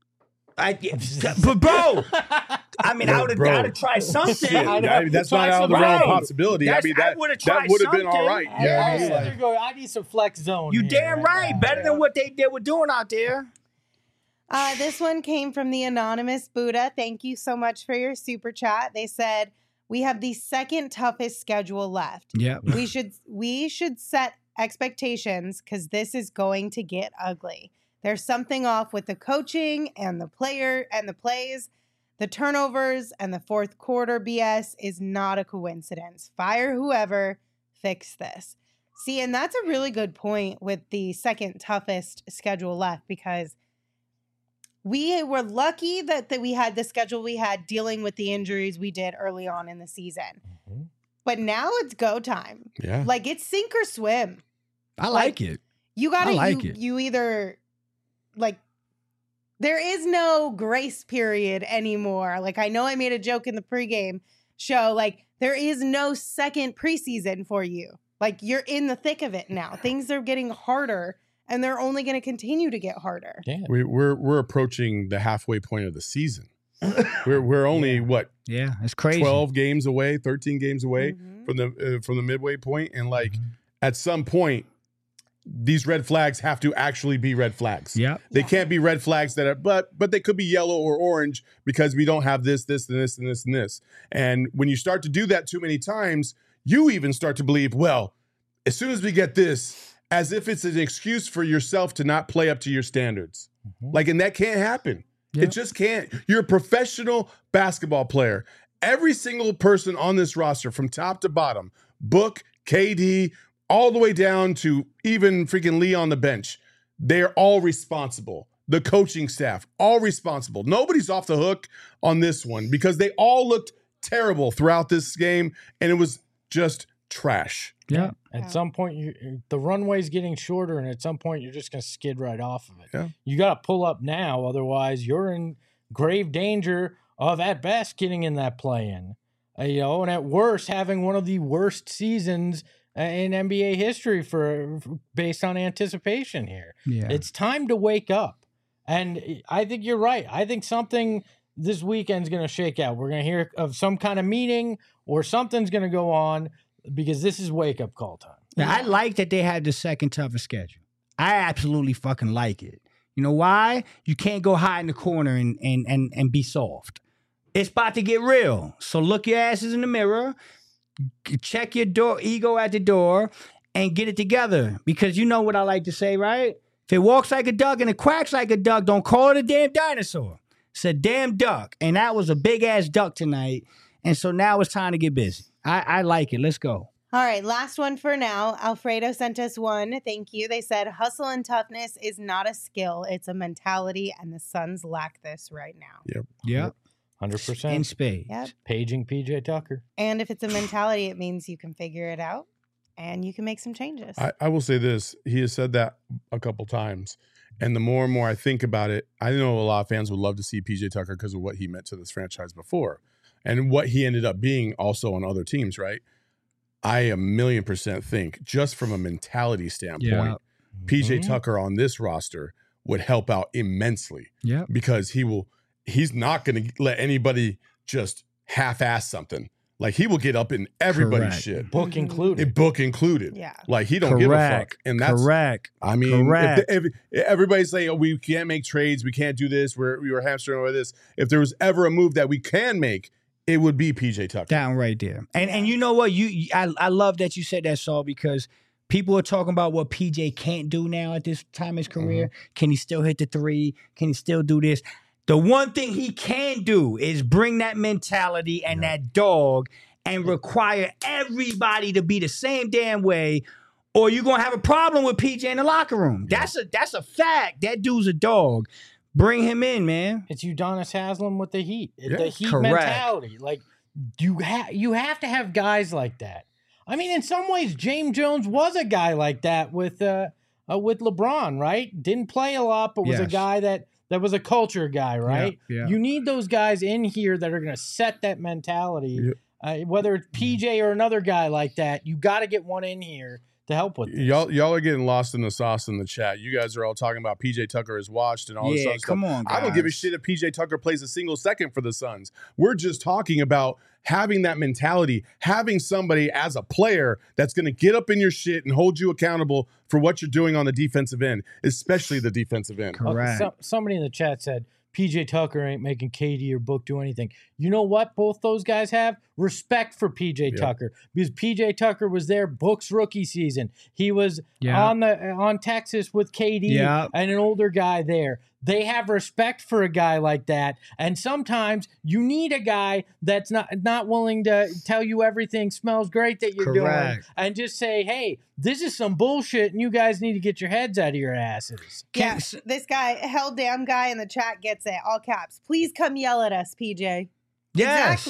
D: But bro, I mean, I would have tried something.
C: That's not out of the realm of possibility.
D: I
C: mean, that would have been all right.
B: I need some flex zone.
D: You damn right. Better than what they were doing out there.
A: This one came from the anonymous Buddha. Thank you so much for your super chat. They said, we have the second toughest schedule left.
D: Yeah.
A: We should set expectations because this is going to get ugly. There's something off with the coaching and the player and the plays. The turnovers and the fourth quarter BS is not a coincidence. Fire whoever, fix this. See, and that's a really good point with the second toughest schedule left because we were lucky that we had the schedule we had dealing with the injuries we did early on in the season. Mm-hmm. But now it's go time.
C: Yeah.
A: Like it's sink or swim.
D: I like it.
A: You gotta, you either like, there is no grace period anymore. Like, I know I made a joke in the pregame show. Like, there is no second preseason for you. Like, you're in the thick of it now. Things are getting harder, and they're only going to continue to get harder.
B: Yeah.
C: We're approaching the halfway point of the season. we're only what?
D: Yeah, it's crazy.
C: 12 games away, 13 games away from the midway point, and like at some point, these red flags have to actually be red flags.
D: Yeah.
C: They can't be red flags that are, but they could be yellow or orange because we don't have this, and this, and this, and this. And when you start to do that too many times, you even start to believe, well, as soon as we get this, as if it's an excuse for yourself to not play up to your standards. Mm-hmm. Like, and that can't happen. Yep. It just can't. You're a professional basketball player. Every single person on this roster from top to bottom, Book, KD, all the way down to even freaking Lee on the bench. They're all responsible. The coaching staff, all responsible. Nobody's off the hook on this one because they all looked terrible throughout this game, and it was just trash.
D: Yeah.
B: At some point, the runway's getting shorter, and at some point, you're just going to skid right off of it.
C: Yeah.
B: You got to pull up now, otherwise you're in grave danger of, at best, getting in that play-in. and at worst having one of the worst seasons in NBA history based on anticipation here.
D: Yeah.
B: It's time to wake up. And I think you're right. I think something this weekend's going to shake out. We're going to hear of some kind of meeting or something's going to go on because this is wake up call time.
D: Yeah, I like that they had the second toughest schedule. I absolutely fucking like it. You know why? You can't go hide in the corner and be soft. It's about to get real. So look your asses in the mirror, check your ego at the door, and get it together. Because you know what I like to say, right? If it walks like a duck and it quacks like a duck, don't call it a damn dinosaur. It's a damn duck. And that was a big-ass duck tonight. And so now it's time to get busy. I like it. Let's go.
A: All right, last one for now. Alfredo sent us one. Thank you. They said, hustle and toughness is not a skill. It's a mentality, and the Suns lack this right now.
D: Yep.
B: 100%.
D: In spades.
A: Yep.
B: Paging PJ Tucker.
A: And if it's a mentality, it means you can figure it out and you can make some changes.
C: I will say this. He has said that a couple times. And the more and more I think about it, I know a lot of fans would love to see PJ Tucker because of what he meant to this franchise before and what he ended up being also on other teams, right? I 1,000,000% think just from a mentality standpoint, PJ Tucker on this roster would help out immensely.
D: Yeah.
C: Because he's not going to let anybody just half-ass something. Like he will get up in everybody's shit.
B: Book included.
C: Book included.
A: Yeah.
C: Like he don't give a fuck. And that's
D: correct.
C: I mean,
D: Correct.
C: if everybody's saying, "Oh, we can't make trades, we can't do this, we were hamstring over this." If there was ever a move that we can make, it would be PJ Tucker.
D: Down right there. And you know what? I love that you said that, Saul, because people are talking about what PJ can't do now at this time in his career. Can he still hit the three? Can he still do this? The one thing he can do is bring that mentality and that dog and require everybody to be the same damn way, or you're going to have a problem with PJ in the locker room. That's a fact. That dude's a dog. Bring him in, man.
B: It's Udonis Haslem with the Heat.
C: Yeah.
B: The Heat
D: Correct.
B: mentality. Like you have to have guys like that. I mean, in some ways, James Jones was a guy like that with LeBron, right? Didn't play a lot, but was a
D: Yes.
B: guy that was a culture guy, right?
D: Yeah.
B: You need those guys in here that are going to set that mentality. Whether it's PJ or another guy like that, you got to get one in here to help with this.
C: Y'all are getting lost in the sauce in the chat. You guys are all talking about PJ Tucker is washed and all this other stuff.
D: Come on,
C: I don't give a
D: guys.
C: shit if PJ Tucker plays a single second for the Suns. We're just talking about having that mentality, having somebody as a player that's going to get up in your shit and hold you accountable for what you're doing on the defensive end, especially the defensive end.
D: Correct.
B: Somebody in the chat said, PJ Tucker ain't making KD or Book do anything. You know what both those guys have? Respect for PJ Tucker. Because PJ Tucker was there Book's rookie season. He was on Texas with KD and an older guy there. They have respect for a guy like that. And sometimes you need a guy that's not willing to tell you everything smells great that you're doing and just say, hey, this is some bullshit and you guys need to get your heads out of your asses.
A: Yeah, this guy, hell damn guy in the chat gets it, all caps. Please come yell at us, PJ.
D: Yes.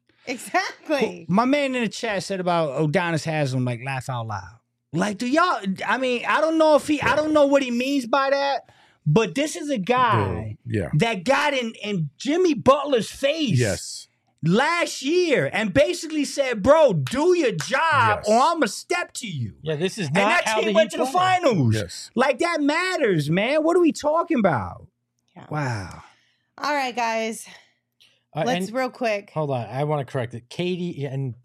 A: Exactly.
D: My man in the chat said about Udonis Haslem, like, laugh out loud. Like, do y'all, I mean, I don't know what he means by that, but this is a guy that got in Jimmy Butler's face last year and basically said, bro, do your job or I'm going to step to you.
B: Yeah, this is not
D: and that
B: how
D: team
B: the
D: went
B: Heat
D: to the
B: play.
D: finals.
C: Yes.
D: Like, that matters, man. What are we talking about?
A: Yeah.
D: Wow.
A: All right, guys. Let's real quick.
B: Hold on. I want to correct it. Katie and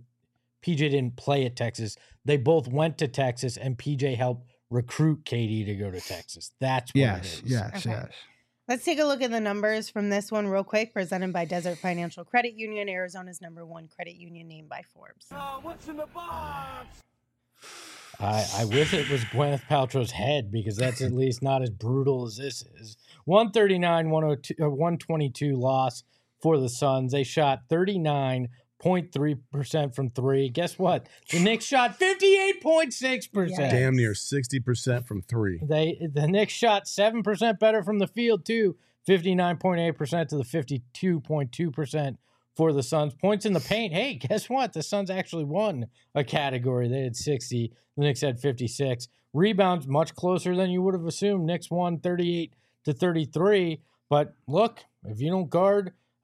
B: PJ didn't play at Texas. They both went to Texas, and PJ helped recruit KD to go to Texas. That's what it is.
D: Yes.
A: Let's take a look at the numbers from this one real quick, presented by Desert Financial Credit Union, Arizona's #1 credit union named by Forbes.
F: What's in the box?
B: I wish it was Gwyneth Paltrow's head because that's at least not as brutal as this is. 122 loss for the Suns. They shot 39.3% from three. Guess what? The Knicks shot 58.6%.
C: Damn near 60% from three.
B: The Knicks shot 7% better from the field too. 59.8% to the 52.2% for the Suns. Points in the paint. Hey, guess what? The Suns actually won a category. They had 60. The Knicks had 56. Rebounds much closer than you would have assumed. Knicks won 38-33. But look, if you don't guard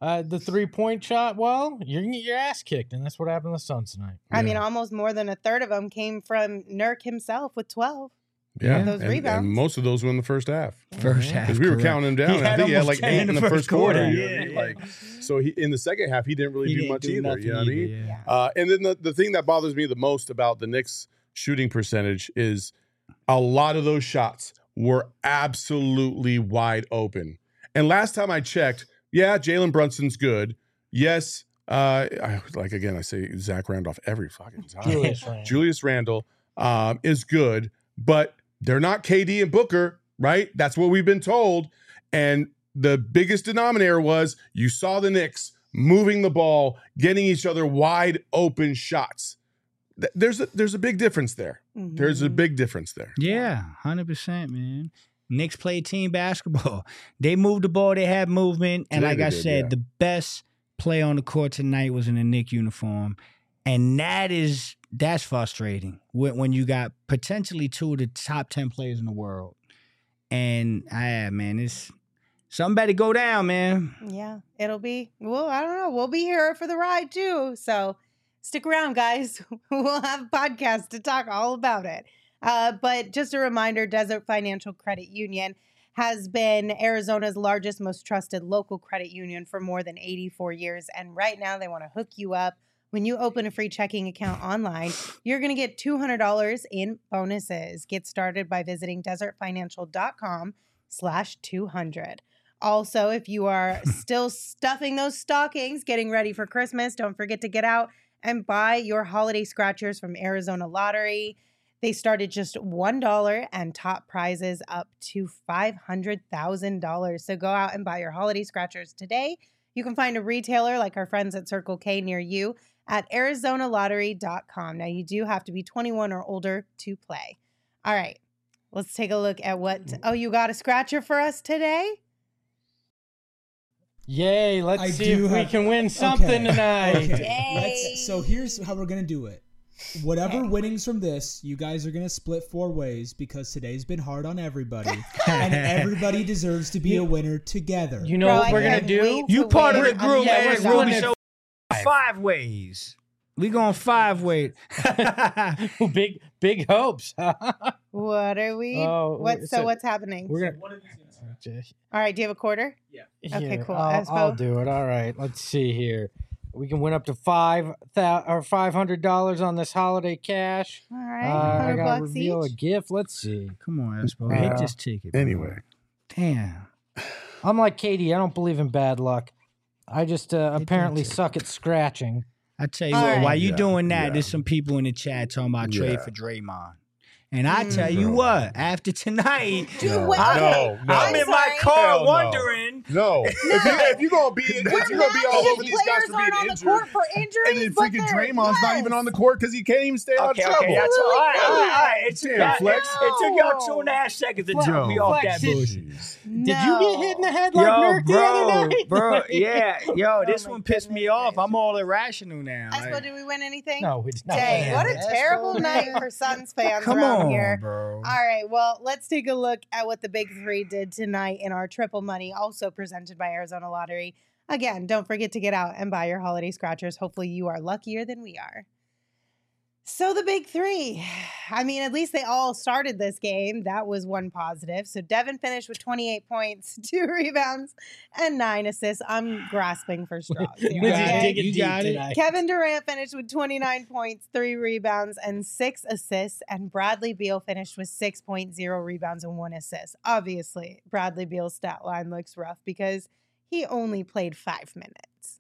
B: The 3-point shot, well, you're going to get your ass kicked, and that's what happened to the Suns tonight.
A: I mean, almost more than a third of them came from Nurk himself with 12.
C: Yeah,
A: Those
C: and
A: rebounds.
C: most of those were in the first half.
D: First half.
C: Because we were
D: correct.
C: counting him down.
D: He
C: I
D: had
C: think he had
D: almost
C: like
D: 10
C: 8 in the first quarter. You know what I
D: Yeah,
C: mean?
D: yeah.
C: Like, so he in the second half, he didn't really
D: He
C: do
D: didn't
C: much
D: do
C: either.
D: nothing
C: You know what I mean?
D: yeah.
C: And then the thing that bothers me the most about the Knicks shooting percentage is a lot of those shots were absolutely wide open. And last time I checked, yeah, Jalen Brunson's good. Yes, I say Zach Randolph every fucking time. Julius Randle is good, but they're not KD and Booker, right? That's what we've been told. And the biggest denominator was you saw the Knicks moving the ball, getting each other wide open shots. There's a big difference there.
A: Mm-hmm.
C: There's a big difference there.
D: Yeah, 100%, man. Knicks play team basketball. They moved the ball. They had movement. And
C: Yeah,
D: like
C: they
D: I
C: did,
D: said,
C: yeah.
D: the best play on the court tonight was in a Knick uniform. And that's frustrating when you got potentially 2 of the top 10 players in the world. And, man, it's something better go down, man.
A: Yeah, it'll be, well, I don't know. We'll be here for the ride too. So stick around, guys. We'll have a podcast to talk all about it. But just a reminder, Desert Financial Credit Union has been Arizona's largest, most trusted local credit union for more than 84 years. And right now they want to hook you up. When you open a free checking account online, you're going to get $200 in bonuses. Get started by visiting desertfinancial.com/200. Also, if you are still stuffing those stockings, getting ready for Christmas, don't forget to get out and buy your holiday scratchers from Arizona Lottery. They start at just $1 and top prizes up to $500,000. So go out and buy your holiday scratchers today. You can find a retailer like our friends at Circle K near you at ArizonaLottery.com. Now, you do have to be 21 or older to play. All right, let's take a look at what... Oh, you got a scratcher for us today?
B: Yay, let's see if we can win something tonight.
G: Okay. So here's how we're going to do it. Whatever winnings from this, you guys are going to split 4 ways because today's been hard on everybody. And everybody deserves to be a winner together.
B: You know what we're going to do?
D: You part of the group,
B: Yeah,
D: man.
B: we're doing
D: Ruby,
B: it
D: so 5 ways. We going 5 ways.
B: big hopes.
A: What are we? What's happening?
B: We're gonna.
A: All right, do you have a quarter?
B: Yeah.
A: Okay, cool.
B: I'll do it. All right. Let's see here. We can win up to $500 on this holiday cash.
A: All right,
B: I
A: $100
B: gotta reveal
A: each.
B: a gift. Let's see.
D: Come on, Espo. Hit this ticket. Bro.
C: Anyway.
D: Damn.
B: I'm like Katie. I don't believe in bad luck. I just apparently suck at scratching.
D: I tell you
A: All
D: what,
A: right.
D: while you doing that,
C: Yeah.
D: there's some people in the chat talking about trade
C: Yeah.
D: for Draymond. And I tell you what, after tonight,
A: Dude, wait,
C: No,
A: okay.
C: no.
D: I'm in my
A: sorry.
D: car
C: Hell no.
D: wondering.
C: No. If you're gonna be
A: We're
C: all
A: mad
C: over
A: because
C: these guys
A: players
C: for being
A: aren't on the
C: injured,
A: court for injuries,
C: and then
A: but
C: freaking
A: they're-
C: Draymond's not even on the court because he can't even stay out of trouble.
D: That's all right. It took,
C: Damn,
D: y'all,
C: Flex.
D: it took y'all 2.5 seconds to jump me off that
B: Flex.
D: bullshit.
B: Did you get hit in the head like
D: Yo,
B: Nurk the other night?
D: bro, yeah. Yo, this
A: my
D: one pissed me
A: goodness
D: off. I'm all irrational now.
A: Espo, did we win anything?
B: No, we did not.
A: Dang, what a
B: Espo.
A: terrible night for Suns fans
D: Come
A: around
D: on,
A: here.
D: bro.
A: All right, well, let's take a look at what the Big Three did tonight in our Triple Money, also presented by Arizona Lottery. Again, don't forget to get out and buy your holiday scratchers. Hopefully you are luckier than we are. So the Big Three, I mean, at least they all started this game. That was one positive. So Devin finished with 28 points, 2 rebounds, and 9 assists. I'm grasping for straws.
B: You
A: here,
B: got
A: okay?
B: it.
D: You got it.
B: Tonight.
A: Kevin Durant finished with 29 points, 3 rebounds, and 6 assists. And Bradley Beal finished with 6.0 rebounds and 1 assist. Obviously, Bradley Beal's stat line looks rough because he only played 5 minutes.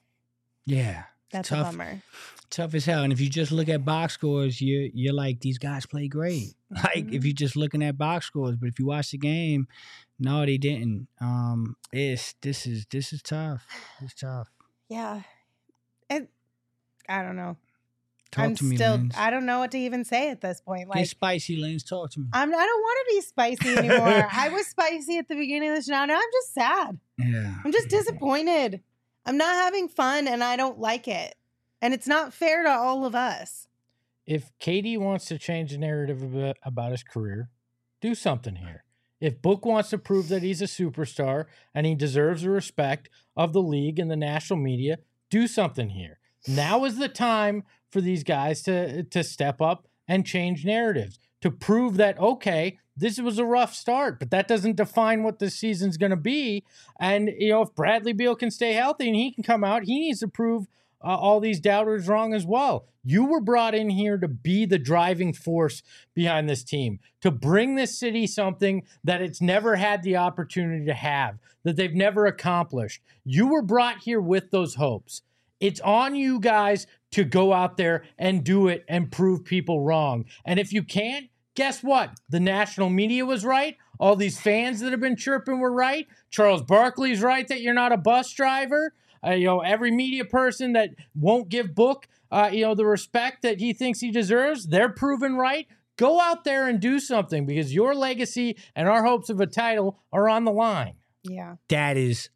D: Yeah.
A: That's
D: tough,
A: a bummer.
D: Tough as hell. And if you just look at box scores, you're like, these guys play great. Like, if you're just looking at box scores, but if you watch the game, no, they didn't. This is tough. It's tough.
A: Yeah. I don't know.
D: Talk to me,
A: still,
D: Lens.
A: I don't know what to even say at this point.
D: Get
A: Like,
D: spicy, Lens. Talk to me.
A: I don't want to be spicy anymore. I was spicy at the beginning of the show. Now I'm just sad.
D: Yeah.
A: I'm just disappointed. I'm not having fun and I don't like it. And it's not fair to all of us.
B: If KD wants to change the narrative about his career, do something here. If Book wants to prove that he's a superstar and he deserves the respect of the league and the national media, do something here. Now is the time for these guys to step up and change narratives, to prove that, okay, this was a rough start, but that doesn't define what the season's going to be. And, if Bradley Beal can stay healthy and he can come out, he needs to prove all these doubters wrong as well. You were brought in here to be the driving force behind this team, to bring this city something that it's never had the opportunity to have, that they've never accomplished. You were brought here with those hopes. It's on you guys to go out there and do it and prove people wrong. And if you can't, guess what? The national media was right. All these fans that have been chirping were right. Charles Barkley's right that you're not a bus driver. Every media person that won't give Book, the respect that he thinks he deserves, they're proven right. Go out there and do something, because your legacy and our hopes of a title are on the line.
A: Yeah.
D: That is,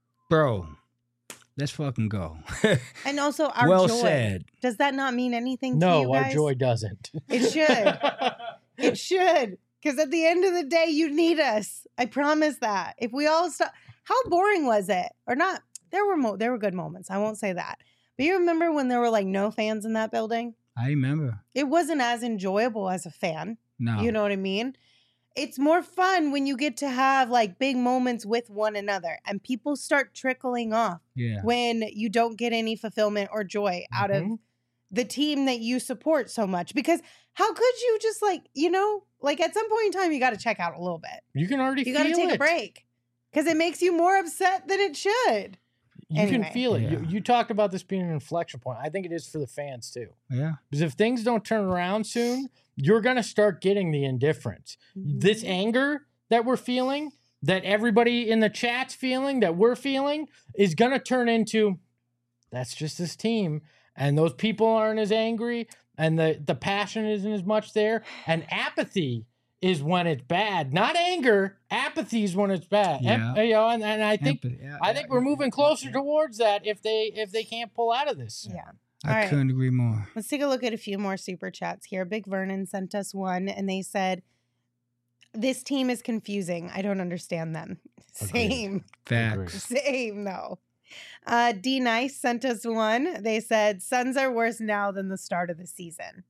D: bro. Let's fucking go.
A: And also our
D: well
A: joy.
D: said.
A: Does that not mean anything to
B: No,
A: you guys?
B: our joy doesn't.
A: It should. It should. Because at the end of the day, you need us. I promise that. If we all stop, how boring was it? Or not? There were good moments. I won't say that. But you remember when there were like no fans in that building?
D: I remember.
A: It wasn't as enjoyable as a fan.
D: No.
A: You know what I mean? It's more fun when you get to have like big moments with one another and people start trickling off
D: Yeah.
A: when you don't get any fulfillment or joy out of the team that you support so much. Because how could you just like at some point in time, you got to check out a little bit.
B: You can already
A: You
B: feel it.
A: got to take a break because it makes you more upset than it should.
B: You
A: Anyway.
B: can feel it.
D: Yeah.
B: You talked about this being an inflection point. I think it is for the fans too.
D: Yeah.
B: Because if things don't turn around soon, you're going to start getting the indifference. This anger that we're feeling, that everybody in the chat's feeling, that we're feeling, is going to turn into, that's just this team. And those people aren't as angry, and the passion isn't as much there. And apathy is when it's bad. Not anger. Apathy is when it's bad.
D: Yeah.
B: And I think we're moving closer towards that if they can't pull out of this.
A: Yeah.
D: I
A: All right.
D: couldn't agree more.
A: Let's take a look at a few more super chats here. Big Vernon sent us one and they said, this team is confusing. I don't understand them. Same.
D: Facts.
A: Same, though. D Nice sent us one. They said, Suns are worse now than the start of the season.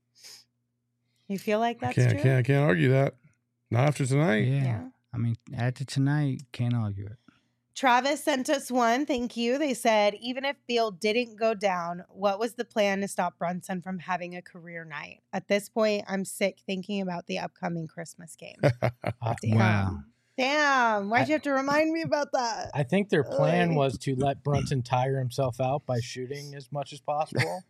A: You feel like that's true?
C: I can't argue that. Not after tonight.
D: Yeah.
A: Yeah.
D: I mean, after tonight, can't argue it.
A: Travis sent us one. Thank you. They said, even if Beal didn't go down, what was the plan to stop Brunson from having a career night? At this point, I'm sick thinking about the upcoming Christmas game. Damn.
D: Wow.
A: Damn. Why'd you have to remind me about that?
B: I think their plan
A: Oy.
B: was to let Brunson tire himself out by shooting as much as possible.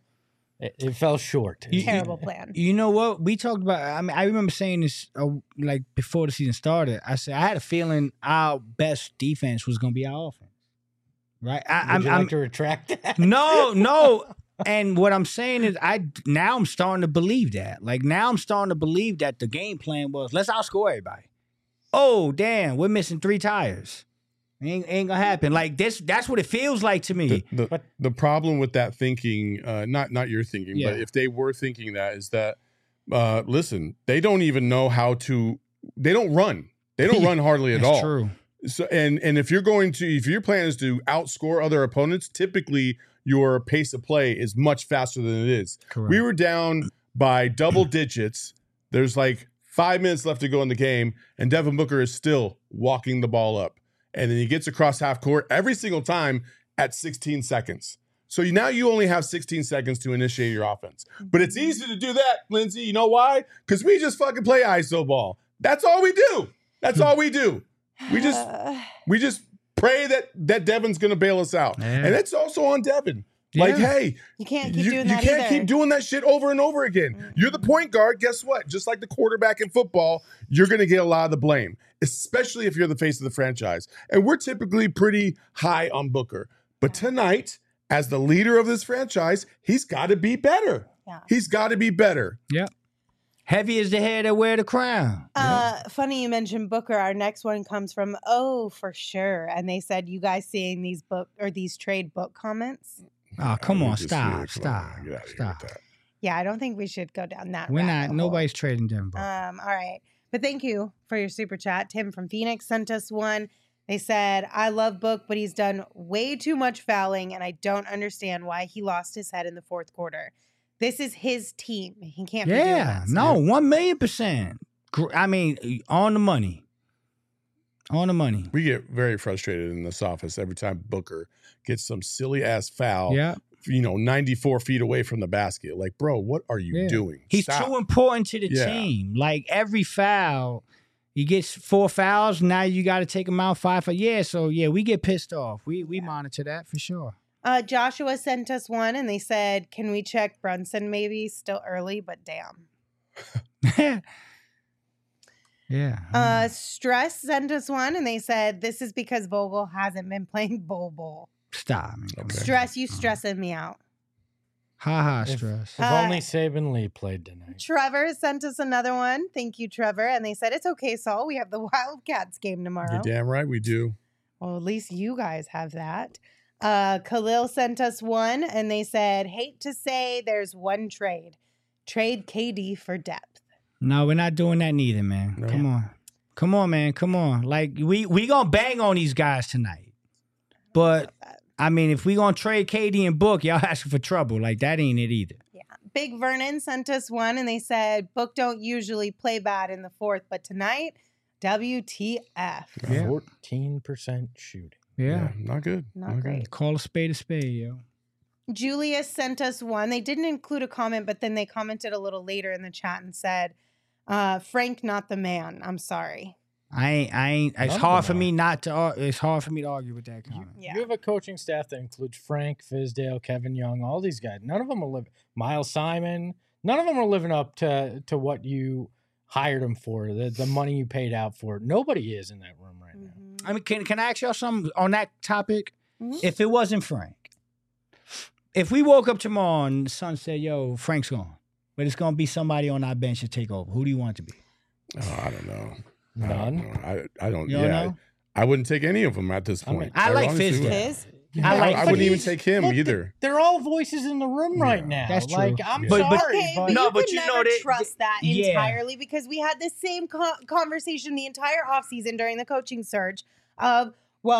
B: It fell short.
A: Terrible plan.
D: You know what? We talked about, I mean, I remember saying this like before the season started. I said, I had a feeling our best defense was going to be our offense. Right?
B: Would you like to retract that?
D: No. And what I'm saying is now I'm starting to believe that. Like now I'm starting to believe that the game plan was, let's outscore everybody. Oh, damn, we're missing 3 tires. Ain't gonna happen. Like this, that's what it feels like to me.
C: The problem with that thinking, not your thinking,
D: Yeah.
C: but if they were thinking that, is that listen, they don't even know how to. They don't run. They don't run hardly at
D: That's
C: all.
D: true.
C: So and if your plan is to outscore other opponents, typically your pace of play is much faster than it is.
D: Correct.
C: We were down by double digits. There's like 5 minutes left to go in the game, and Devin Booker is still walking the ball up. And then he gets across half court every single time at 16 seconds. So now you only have 16 seconds to initiate your offense. But it's easy to do that, Lindsay. You know why? Because we just fucking play ISO ball. That's all we do. That's all we do. We just pray that Devin's going to bail us out.
D: Yeah.
C: And it's also on Devin. Like,
D: Yeah.
C: hey,
A: You can't keep doing
C: you
A: that
C: can't
A: either.
C: keep doing that shit over and over again. You're the point guard. Guess what? Just like the quarterback in football, you're going to get a lot of the blame, especially if you're the face of the franchise. And we're typically pretty high on Booker. But tonight, as the leader of this franchise, he's got to be better.
A: Yeah.
C: He's got to be better.
D: Yep. Heavy is the head that wear the crown.
A: Funny you mentioned Booker. Our next one comes from for sure. And they said, you guys seeing these trade book comments?
D: Oh, come on.
C: Just-
D: Stop.
C: yeah, come
D: Stop.
C: on, get out of here
D: Stop.
C: with that.
A: Yeah, I don't think we should go down that
D: We're
A: rabbit
D: not.
A: hole.
D: Nobody's trading Denver.
A: All right. But thank you for your super chat. Tim from Phoenix sent us one. They said, I love Book, but he's done way too much fouling, and I don't understand why he lost his head in the fourth quarter. This is his team. He can't be doing that.
D: No, 1,000,000%. I mean, on the money. On the money.
C: We get very frustrated in this office every time Booker gets some silly ass foul.
D: Yeah.
C: 94 feet away from the basket. Like, bro, what are you doing?
D: He's
C: Stop.
D: too important to the team. Like, every foul, he gets 4 fouls. Now you got to take him out 5. Yeah, so, we get pissed off. We monitor that for sure.
A: Joshua sent us one, and they said, can we check Brunson maybe? Still early, but damn.
D: Yeah.
A: Stress sent us one, and they said, this is because Vogel hasn't been playing Bowl.
D: Stop. Man.
C: Okay.
A: Stress, you stressing me out.
D: Ha, stress.
B: If only Saban Lee played tonight.
A: Trevor sent us another one. Thank you, Trevor. And they said, it's okay, Saul. We have the Wildcats game tomorrow.
C: You're damn right we do.
A: Well, at least you guys have that. Khalil sent us one, and they said, hate to say there's one trade. Trade KD for depth.
D: No, we're not doing that neither, man.
C: No.
D: Come on, man. Come on. Like, we gonna bang on these guys tonight. But, I mean, if we gonna trade KD and Book, y'all asking for trouble. Like, that ain't it either.
A: Yeah. Big Vernon sent us one, and they said, Book don't usually play bad in the fourth, but tonight, WTF.
D: Yeah.
B: 14% shooting.
D: Yeah.
C: Not good.
A: Not great.
D: Call a spade, yo.
A: Julius sent us one. They didn't include a comment, but then they commented a little later in the chat and said, Frank, not the man. I'm sorry.
D: I ain't. It's hard for me not to. It's hard for me to argue with that comment.
A: Yeah.
B: You have a coaching staff that includes Frank, Fizdale, Kevin Young, all these guys. None of them are living. Miles Simon. None of them are living up to what you hired them for. The money you paid out for. Nobody is in that room right now.
D: I mean, can I ask y'all something on that topic?
A: Mm-hmm.
D: If it wasn't Frank, if we woke up tomorrow and the son said, "Yo, Frank's gone," but it's gonna be somebody on our bench to take over, who do you want it to be?
C: Oh, I don't know.
B: None.
C: I don't.
D: You don't know?
C: I wouldn't take any of them at this point.
D: I like
C: honestly
D: Fizdale.
C: would.
A: Fizz?
C: I wouldn't even take him either.
B: They're all voices in the room right now.
D: That's true.
B: Like, I'm
D: But-
B: sorry,
A: Okay,
B: but
A: but
D: No,
A: you
D: but
A: could
D: you know
A: never
D: that-
A: trust that
D: yeah.
A: entirely because we had the same conversation the entire offseason during the coaching search of,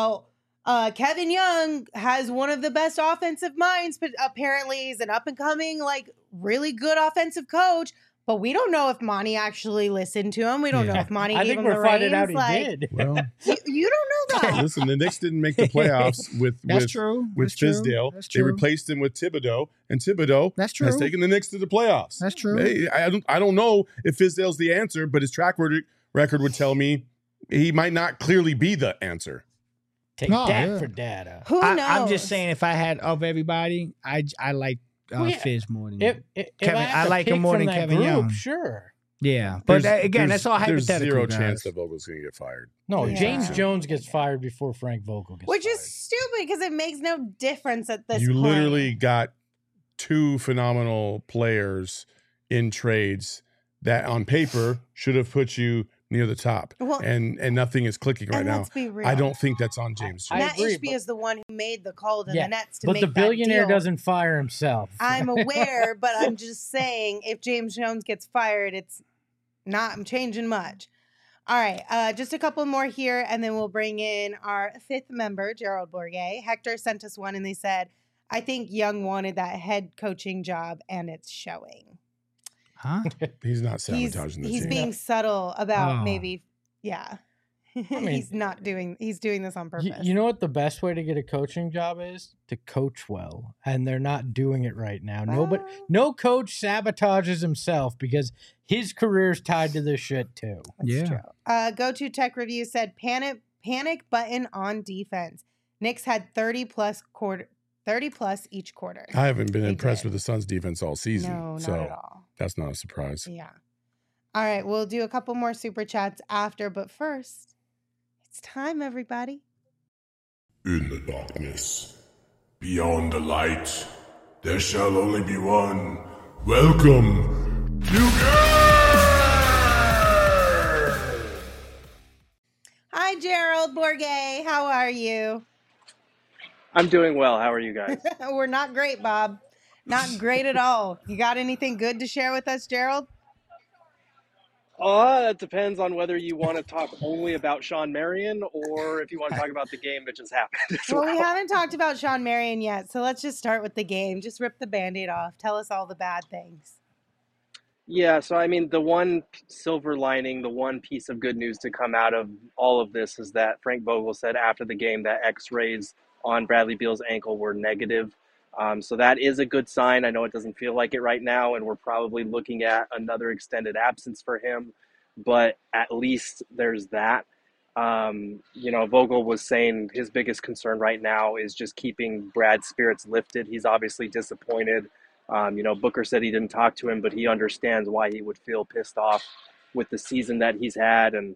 A: Kevin Young has one of the best offensive minds, but apparently he's an up-and-coming, really good offensive coach. But we don't know if Monty actually listened to him. We don't know if Monty
B: I
A: gave
B: think
A: him the
B: we're finding out
A: reins.
B: he did.
C: Well,
A: You don't know that.
C: listen, the Knicks didn't make the playoffs with
D: true.
C: with
D: That's true.
C: Fizdale.
D: That's
C: They
D: true.
C: replaced him with Thibodeau, and Thibodeau
D: That's true.
C: has taken the Knicks to the playoffs.
D: That's true.
C: Hey, I don't know if Fizdale's the answer, but his track record would tell me he might not clearly be the answer.
B: Take
D: No,
B: that
D: yeah.
B: for data.
A: Who knows?
D: I'm just saying, if I had of everybody, I like
B: Well, yeah.
D: Fizz more than
B: If
D: Kevin-
B: I, had
D: I
B: to
D: like him
B: pick
D: more
B: from
D: than
B: that
D: Kevin
B: group,
D: Young.
B: Sure.
D: Yeah, but again, that's all
C: There's
D: hypothetical.
C: zero
D: guys.
C: chance that Vogel's going to get fired.
B: No,
A: Yeah.
B: James Jones gets fired before Frank Vogel gets
A: Which
B: fired.
A: is stupid because it makes no difference at this
C: You
A: point.
C: literally got two phenomenal players in trades that on paper should have put you near the top.
A: Well,
C: and nothing is clicking right
A: and
C: now.
A: let's be real.
C: I don't think that's on James
B: I
C: Jones.
A: Matt
B: agree,
A: Ishby
B: but-
A: is the one who made the call to
B: Yeah,
A: the Nets to
B: But
A: make
B: the
A: that
B: billionaire
A: deal.
B: doesn't fire himself.
A: I'm aware, but I'm just saying if James Jones gets fired, it's not changing much. All right, just a couple more here, and then we'll bring in our fifth member, Gerald Bourget. Hector sent us one, and they said, I think Young wanted that head coaching job, and it's showing.
D: Huh?
C: He's not
A: He's,
C: sabotaging the
A: he's
C: team.
A: being subtle about
D: Oh.
A: maybe, yeah.
B: mean,
A: he's doing this on purpose.
B: You know what the best way to get a coaching job is? To coach well. And they're not doing it right now. No coach sabotages himself because his career's tied to this shit too.
D: Yeah.
A: True. Go to Tech Review said panic button on defense. Knicks had 30 plus each quarter.
C: I haven't been
A: They
C: impressed
A: did.
C: with the Suns defense all season.
A: No, not
C: so
A: at all.
C: that's not a surprise.
A: Yeah. All right, we'll do a couple more super chats after, but first, it's time, everybody.
F: In the darkness, beyond the light, there shall only be one. Welcome, you
A: Hi, Gerald Bourget. How are you?
H: I'm doing well. How are you guys?
A: We're not great, Bob. Not great at all. You got anything good to share with us, Gerald?
H: That depends on whether you want to talk only about Sean Marion or if you want to talk about the game that just happened as
A: Well, we
H: well.
A: haven't talked about Sean Marion yet, so let's just start with the game. Just rip the Band-Aid off. Tell us all the bad things.
H: Yeah, so I mean, the one silver lining, the one piece of good news to come out of all of this is that Frank Vogel said after the game that X-rays on Bradley Beal's ankle were negative. So that is a good sign. I know it doesn't feel like it right now, and we're probably looking at another extended absence for him, but at least there's that. Vogel was saying his biggest concern right now is just keeping Brad's spirits lifted. He's obviously disappointed. Booker said he didn't talk to him, but he understands why he would feel pissed off with the season that he's had. And,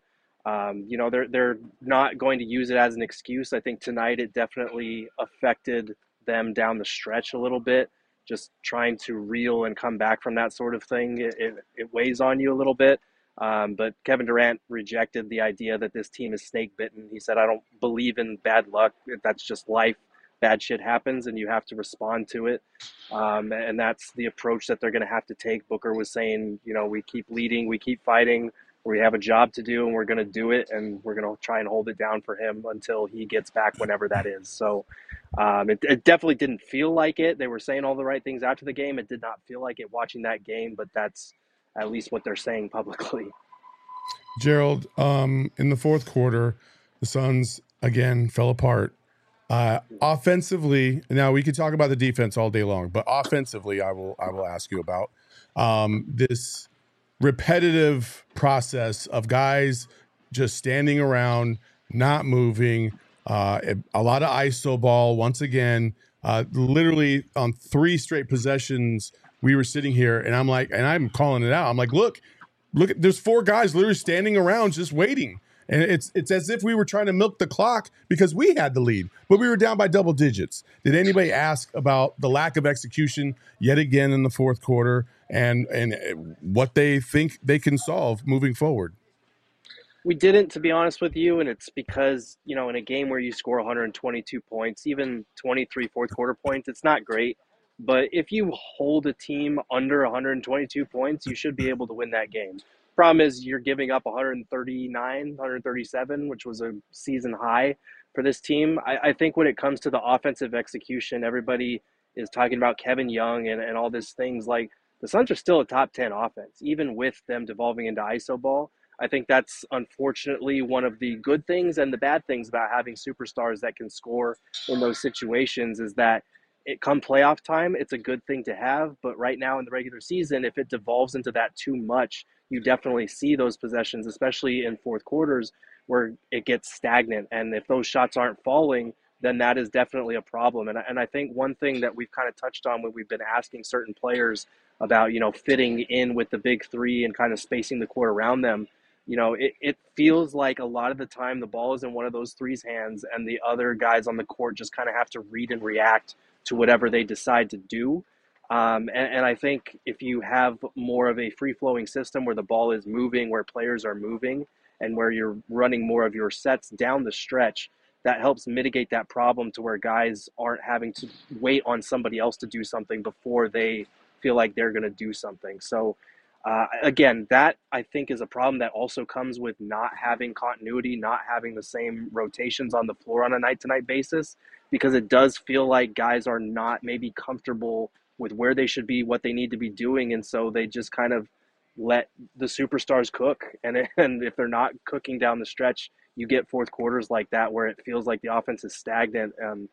H: they're not going to use it as an excuse. I think tonight it definitely affected them down the stretch a little bit, just trying to reel and come back from that sort of thing. It weighs on you a little bit. But Kevin Durant rejected the idea that this team is snake bitten. He said, I don't believe in bad luck. That's just life. Bad shit happens and you have to respond to it. And that's the approach that they're going to have to take. Booker was saying, we keep leading, we keep fighting, we have a job to do and we're going to do it. And we're going to try and hold it down for him until he gets back, whenever that is. So it definitely didn't feel like it. They were saying all the right things after the game. It did not feel like it watching that game, but that's at least what they're saying publicly.
C: Gerald, in the fourth quarter, the Suns again fell apart. Offensively, now we could talk about the defense all day long, but offensively, I will ask you about this repetitive process of guys just standing around, not moving. A lot of ISO ball once again. Literally on 3 straight possessions, we were sitting here, and I'm calling it out. I'm like, look, there's 4 guys literally standing around just waiting. And it's as if we were trying to milk the clock because we had the lead, but we were down by double digits. Did anybody ask about the lack of execution yet again in the fourth quarter and what they think they can solve moving forward?
H: We didn't, to be honest with you, and it's because, in a game where you score 122 points, even 23 fourth quarter points, it's not great. But if you hold a team under 122 points, you should be able to win that game. Problem is you're giving up 139, 137, which was a season high for this team. I think when it comes to the offensive execution, everybody is talking about Kevin Young and all these things. Like, the Suns are still a top 10 offense, even with them devolving into ISO ball. I think that's unfortunately one of the good things and the bad things about having superstars that can score in those situations is that it come playoff time, it's a good thing to have. But right now in the regular season, if it devolves into that too much, you definitely see those possessions, especially in fourth quarters, where it gets stagnant. And if those shots aren't falling, then that is definitely a problem. And I think one thing that we've kind of touched on when we've been asking certain players about, fitting in with the big 3 and kind of spacing the court around them, it feels like a lot of the time the ball is in one of those 3's hands and the other guys on the court just kind of have to read and react to whatever they decide to do. And I think if you have more of a free-flowing system where the ball is moving, where players are moving, and where you're running more of your sets down the stretch, that helps mitigate that problem to where guys aren't having to wait on somebody else to do something before they feel like they're going to do something. So again, that I think is a problem that also comes with not having continuity, not having the same rotations on the floor on a night-to-night basis, because it does feel like guys are not maybe comfortable with where they should be, what they need to be doing, and so they just kind of let the superstars cook. And if they're not cooking down the stretch, you get fourth quarters like that where it feels like the offense is stagnant. And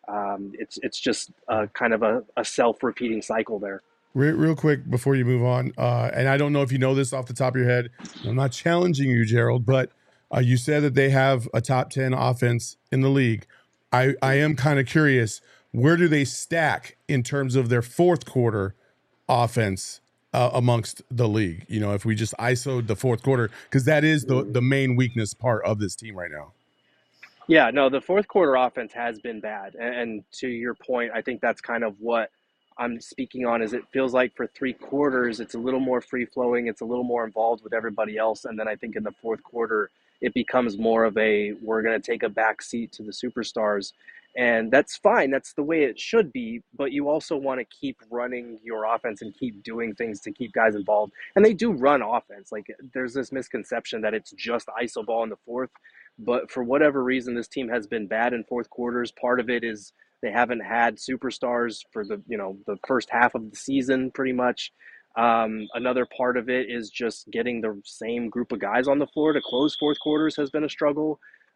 H: it's just kind of a self-repeating cycle there.
C: Real quick before you move on, and I don't know if you know this off the top of your head. I'm not challenging you, Gerald, but you said that they have a top 10 offense in the league. I am kind of curious, where do they stack in terms of their fourth quarter offense amongst the league? If we just ISO'd the fourth quarter, because that is the main weakness part of this team right now.
H: Yeah, no, the fourth quarter offense has been bad. And to your point, I think that's kind of what I'm speaking on is it feels like for 3 quarters, it's a little more free flowing. It's a little more involved with everybody else. And then I think in the fourth quarter, it becomes more of we're going to take a back seat to the superstars. And that's fine. That's the way it should be. But you also want to keep running your offense and keep doing things to keep guys involved. And they do run offense. Like, there's this misconception that it's just ISO ball in the fourth. But for whatever reason, this team has been bad in fourth quarters. Part of it is they haven't had superstars for the first half of the season, pretty much. Another part of it is just getting the same group of guys on the floor to close fourth quarters has been a struggle.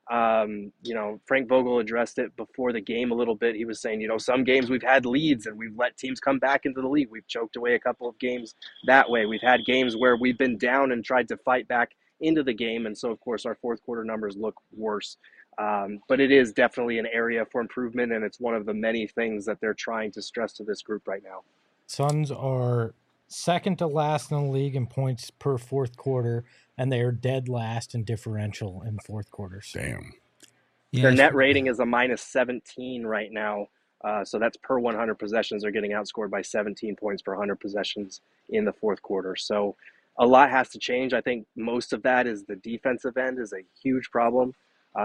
H: Frank Vogel addressed it before the game a little bit. He was saying, some games we've had leads and we've let teams come back into the lead. We've choked away a couple of games that way. We've had games where we've been down and tried to fight back into the game. And so, of course, our fourth quarter numbers look worse. But it is definitely an area for improvement, and it's one of the many things that they're trying to stress to this group right now.
B: Suns are second to last in the league in points per fourth quarter, and they are dead last in differential in fourth quarters.
C: Damn.
D: Yeah,
H: Their net rating is a minus 17 right now. So that's per 100 possessions. They're getting outscored by 17 points per 100 possessions in the fourth quarter. So a lot has to change. I think most of that is the defensive end is a huge problem. They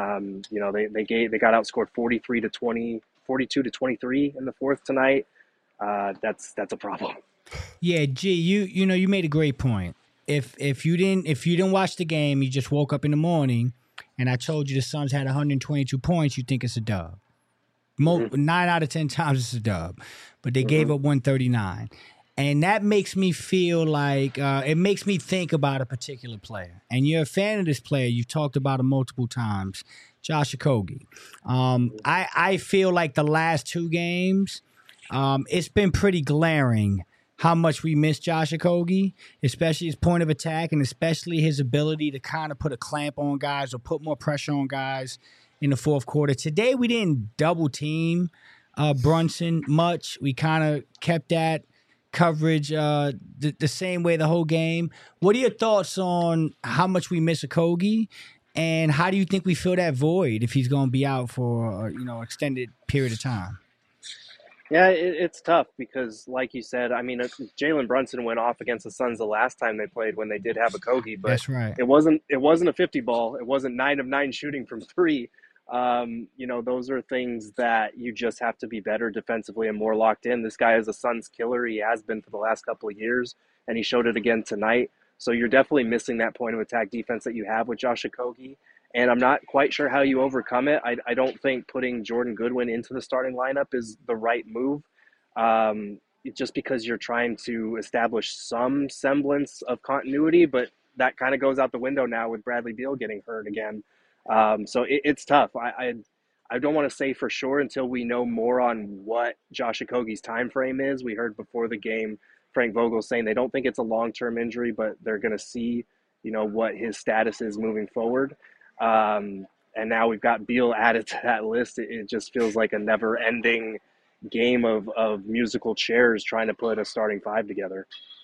H: got outscored 42 to 23 in the fourth tonight. That's a problem.
D: Yeah, G, you made a great point. If you didn't watch the game, you just woke up in the morning, and I told you the Suns had 122 points, you think it's a dub. 9 out of 10 times it's a dub, but they gave up 139, and that makes me feel like it makes me think about a particular player. And you're a fan of this player. You've talked about him multiple times, Josh Okogie. I feel like the last two games, it's been pretty glaring how much we miss Josh Okogie, especially his point of attack and especially his ability to kind of put a clamp on guys or put more pressure on guys in the fourth quarter. Today, we didn't double team Brunson much. We kind of kept that coverage the same way the whole game. What are your thoughts on how much we miss Okogie, and how do you think we fill that void if he's going to be out for extended period of time?
H: Yeah, it's tough because, like you said, I mean, Jalen Brunson went off against the Suns the last time they played when they did have Okogie, but
D: that's right.
H: It wasn't a 50 ball. It wasn't 9 of 9 shooting from three. Those are things that you just have to be better defensively and more locked in. This guy is a Suns killer. He has been for the last couple of years, and he showed it again tonight. So you're definitely missing that point of attack defense that you have with Josh Okogie. And I'm not quite sure how you overcome it. I don't think putting Jordan Goodwin into the starting lineup is the right move, just because you're trying to establish some semblance of continuity, but that kind of goes out the window now with Bradley Beal getting hurt again. So it's tough. I don't want to say for sure until we know more on what Josh Okogie's time frame is. We heard before the game Frank Vogel saying they don't think it's a long-term injury, but they're going to see, what his status is moving forward. And now we've got Beal added to that list. It just feels like a never-ending game of musical chairs trying to put a starting five together.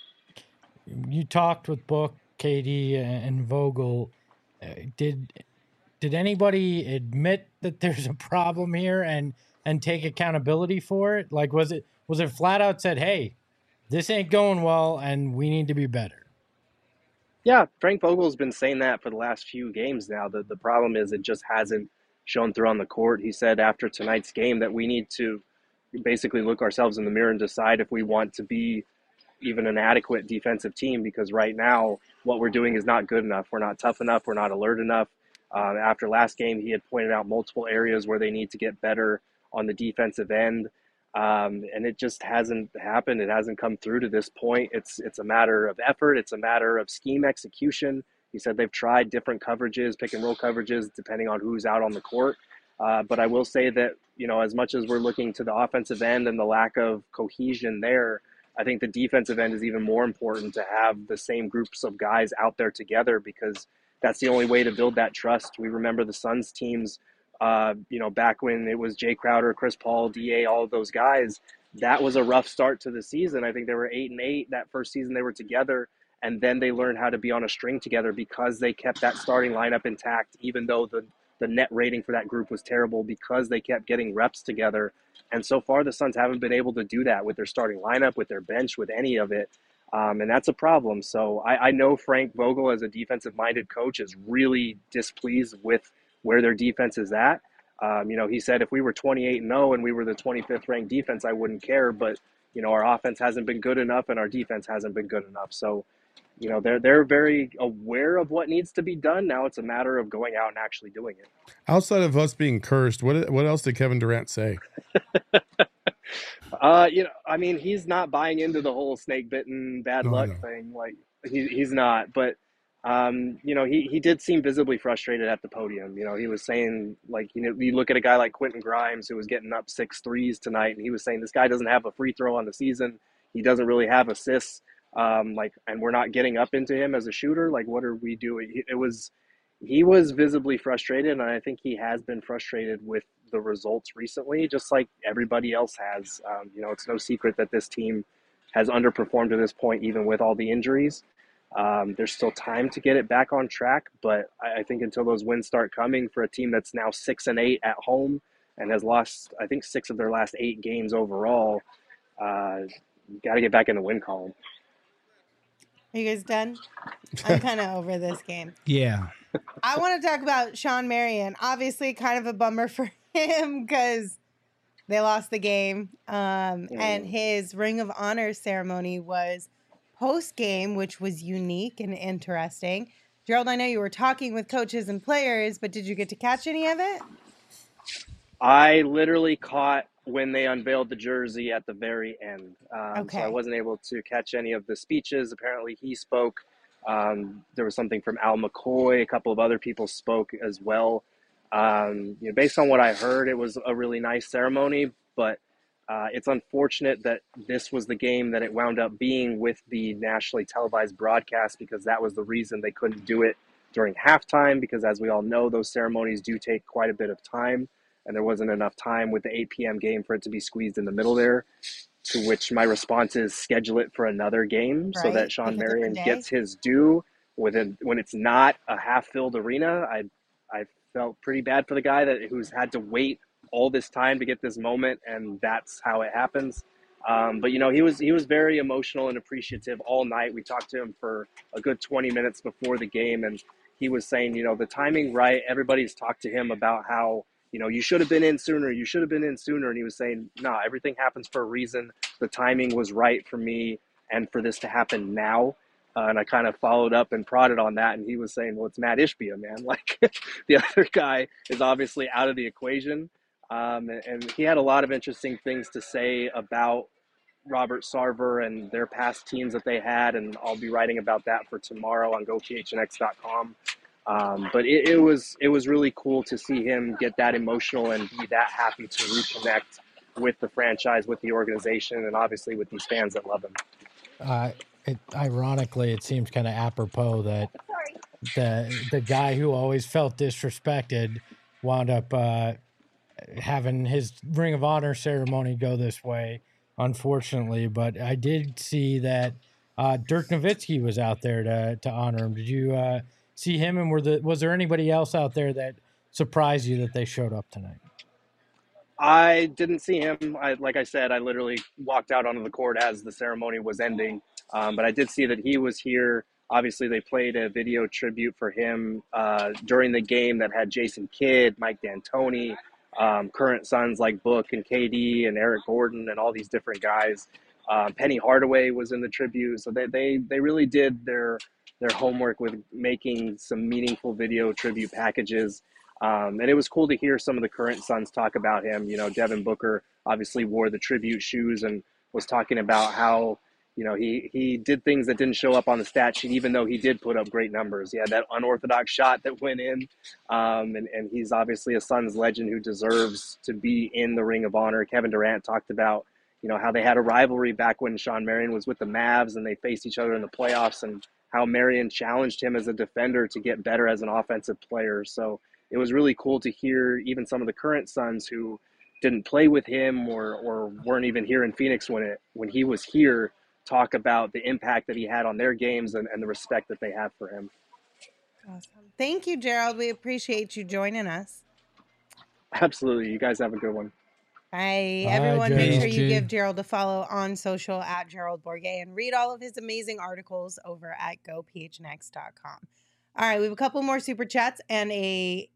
B: You talked with Book, KD, and Vogel. Did anybody admit that there's a problem here and take accountability for it? Like, was it flat out said, hey, this ain't going well and we need to be better?
H: Yeah, Frank Vogel's been saying that for the last few games now. The problem is it just hasn't shown through on the court. He said after tonight's game that we need to basically look ourselves in the mirror and decide if we want to be even an adequate defensive team, because right now what we're doing is not good enough. We're not tough enough. We're not alert enough. After last game, he had pointed out multiple areas where they need to get better on the defensive end. And it just hasn't happened. It hasn't come through to this point. It's a matter of effort. It's a matter of scheme execution. He said they've tried different coverages, pick and roll coverages, depending on who's out on the court. But I will say that, as much as we're looking to the offensive end and the lack of cohesion there, I think the defensive end is even more important to have the same groups of guys out there together, because that's the only way to build that trust. We remember the Suns teams, back when it was Jay Crowder, Chris Paul, DA, all of those guys. That was a rough start to the season. I think they were 8-8 that first season they were together, and then they learned how to be on a string together because they kept that starting lineup intact, even though the net rating for that group was terrible, because they kept getting reps together. And so far, the Suns haven't been able to do that with their starting lineup, with their bench, with any of it. And that's a problem. So I know Frank Vogel, as a defensive-minded coach, is really displeased with where their defense is at. He said if we were 28-0 and we were the 25th ranked defense, I wouldn't care. But, our offense hasn't been good enough and our defense hasn't been good enough. So, they're very aware of what needs to be done. Now it's a matter of going out and actually doing it.
C: Outside of us being cursed, what else did Kevin Durant say?
H: He's not buying into the whole snake bitten bad luck thing. Like he's not, but he did seem visibly frustrated at the podium. He was saying, like, you look at a guy like Quentin Grimes who was getting up 6 threes tonight, and he was saying this guy doesn't have a free throw on the season. He doesn't really have assists. And we're not getting up into him as a shooter. Like, what are we doing? He was visibly frustrated, and I think he has been frustrated with the results recently, just like everybody else has. It's no secret that this team has underperformed to this point, even with all the injuries. There's still time to get it back on track, but I think until those wins start coming for a team that's now 6-8 at home and has lost, I think, 6 of their last 8 games overall, got to get back in the win column.
A: Are you guys done? I'm kind of over this game.
D: Yeah.
A: I want to talk about Sean Marion. Obviously, kind of a bummer for him because they lost the game. And his Ring of Honor ceremony was post-game, which was unique and interesting. Gerald, I know you were talking with coaches and players, but did you get to catch any of it?
H: I literally caught when they unveiled the jersey at the very end. So I wasn't able to catch any of the speeches. Apparently he spoke. There was something from Al McCoy. A couple of other people spoke as well. Based on what I heard, it was a really nice ceremony, but it's unfortunate that this was the game that it wound up being with the nationally televised broadcast, because that was the reason they couldn't do it during halftime, because as we all know, those ceremonies do take quite a bit of time, and there wasn't enough time with the 8 p.m. game for it to be squeezed in the middle there, to which my response is schedule it for another game so that Sean Marion gets his due when it's not a half-filled arena. I felt pretty bad for the guy who's had to wait all this time to get this moment, and that's how it happens. But he was very emotional and appreciative all night. We talked to him for a good 20 minutes before the game, and he was saying, the timing right. Everybody's talked to him about how, you should have been in sooner. You should have been in sooner. And he was saying, no, everything happens for a reason. The timing was right for me and for this to happen now. And I kind of followed up and prodded on that. And he was saying, well, it's Matt Ishbia, man. Like the other guy is obviously out of the equation. And he had a lot of interesting things to say about Robert Sarver and their past teams that they had. And I'll be writing about that for tomorrow on GoPHNX.com. But it was really cool to see him get that emotional and be that happy to reconnect with the franchise, with the organization, and obviously with these fans that love him.
B: Ironically, it seems kind of apropos that the guy who always felt disrespected wound up having his Ring of Honor ceremony go this way, unfortunately. But I did see that Dirk Nowitzki was out there to honor him. Did you see him? And was there anybody else out there that surprised you that they showed up tonight?
H: I didn't see him. Like I said, I literally walked out onto the court as the ceremony was ending. But I did see that he was here. Obviously, they played a video tribute for him during the game that had Jason Kidd, Mike D'Antoni, current Suns like Book and KD and Eric Gordon and all these different guys. Penny Hardaway was in the tribute. So they really did their homework with making some meaningful video tribute packages. And it was cool to hear some of the current Suns talk about him. Devin Booker obviously wore the tribute shoes and was talking about how, he did things that didn't show up on the stat sheet, even though he did put up great numbers. He had that unorthodox shot that went in. And he's obviously a Suns legend who deserves to be in the Ring of Honor. Kevin Durant talked about, how they had a rivalry back when Sean Marion was with the Mavs and they faced each other in the playoffs, and how Marion challenged him as a defender to get better as an offensive player. So it was really cool to hear even some of the current Suns who didn't play with him or weren't even here in Phoenix when he was here talk about the impact that he had on their games and the respect that they have for him.
A: Awesome. Thank you, Gerald. We appreciate you joining us.
H: Absolutely. You guys have a good one.
A: Bye.
B: Bye,
A: Everyone,
B: Gerald.
A: make sure you give Gerald a follow on social at Gerald Bourguet and read all of his amazing articles over at GoPHNX.com. All right, we have a couple more super chats and a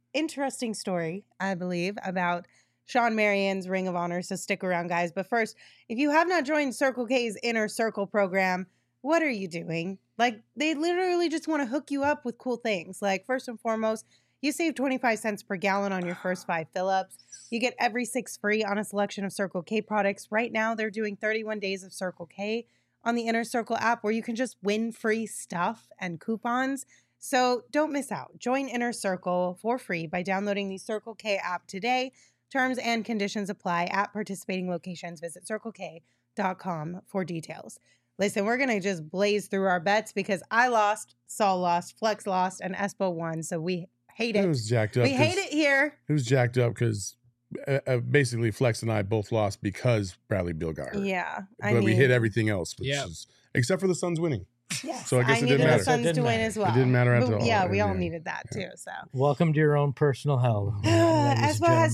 A: interesting story, I believe, about Sean Marion's Ring of Honor. So stick around, guys. But first, if you have not joined Circle K's Inner Circle program, what are you doing? Like, they literally just want to hook you up with cool things. Like, first and foremost, you save 25 cents per gallon on your first 5 fill-ups. You get every 6 free on a selection of Circle K products. Right now, they're doing 31 days of Circle K on the Inner Circle app where you can just win free stuff and coupons. So don't miss out. Join Inner Circle for free by downloading the Circle K app today. Terms and conditions apply at participating locations. Visit circlek.com for details. Listen, we're going to just blaze through our bets because I lost, Saul lost, Flex lost, and Espo won. So we hate it.
C: It was jacked up.
A: We hate it here.
C: It was jacked up because basically Flex and I both lost because Bradley Beal got hurt.
A: Yeah.
C: But we hit everything else, which is except for the Suns winning.
A: Yes,
C: so I guess it didn't
A: needed
C: matter.
A: the Suns to win as well.
C: It didn't matter at all.
A: Yeah, we all needed that too. So
B: Welcome to your own personal hell.
A: Espo has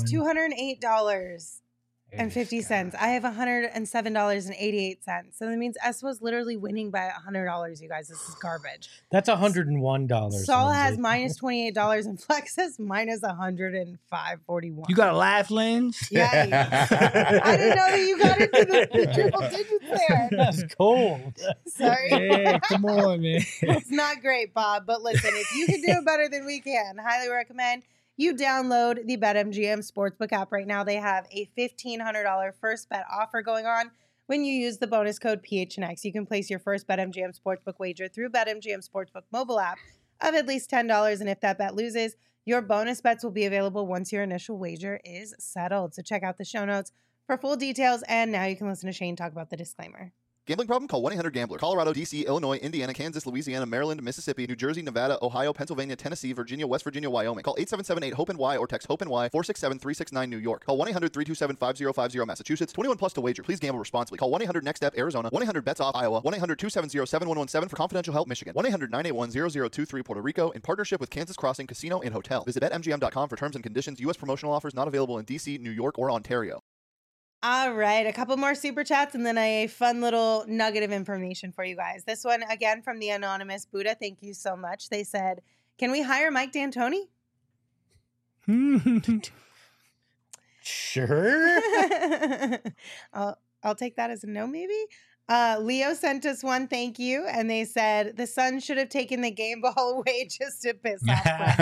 A: $208.50. I have $107.88. So that means Espo's literally winning by $100. You guys, this is garbage.
B: That's $101.
A: Saul has minus $28 and Flex has minus $105.41.
D: You got a laugh, Lens?
A: Yeah. I didn't know that you got into the triple digits there.
B: That's cold.
A: Sorry.
D: Yeah, come on, man.
A: It's not great, Bob. But listen, if you can do it better than we can, highly recommend you download the BetMGM Sportsbook app right now. They have a $1,500 first bet offer going on when you use the bonus code PHNX. You can place your first BetMGM Sportsbook wager through BetMGM Sportsbook mobile app of at least $10. And if that bet loses, your bonus bets will be available once your initial wager is settled. So check out the show notes for full details. And now you can listen to Shane talk about the disclaimer.
I: Gambling problem? Call 1-800-GAMBLER. Colorado, D.C., Illinois, Indiana, Kansas, Louisiana, Maryland, Mississippi, New Jersey, Nevada, Ohio, Pennsylvania, Tennessee, Virginia, West Virginia, Wyoming. Call 877-8-HOPE-NY or text HOPE-NY 467-369 New York. Call 1-800-327-5050 Massachusetts. 21 plus to wager. Please gamble responsibly. Call 1-800-NEXT-STEP Arizona. 1-800-BETS-OFF Iowa. 1-800-270-7117 for confidential help Michigan. 1-800-981-0023 Puerto Rico in partnership with Kansas Crossing Casino and Hotel. Visit BetMGM.com for terms and conditions. U.S. promotional offers not available in D.C., New York, or Ontario.
A: All right, a couple more super chats and then a fun little nugget of information for you guys. This one, again, from the anonymous Buddha. Thank you so much. They said, can we hire Mike D'Antoni?
B: Sure.
A: I'll take that as a no, maybe. Leo sent us one thank you, and they said the Suns should have taken the game ball away just to piss off.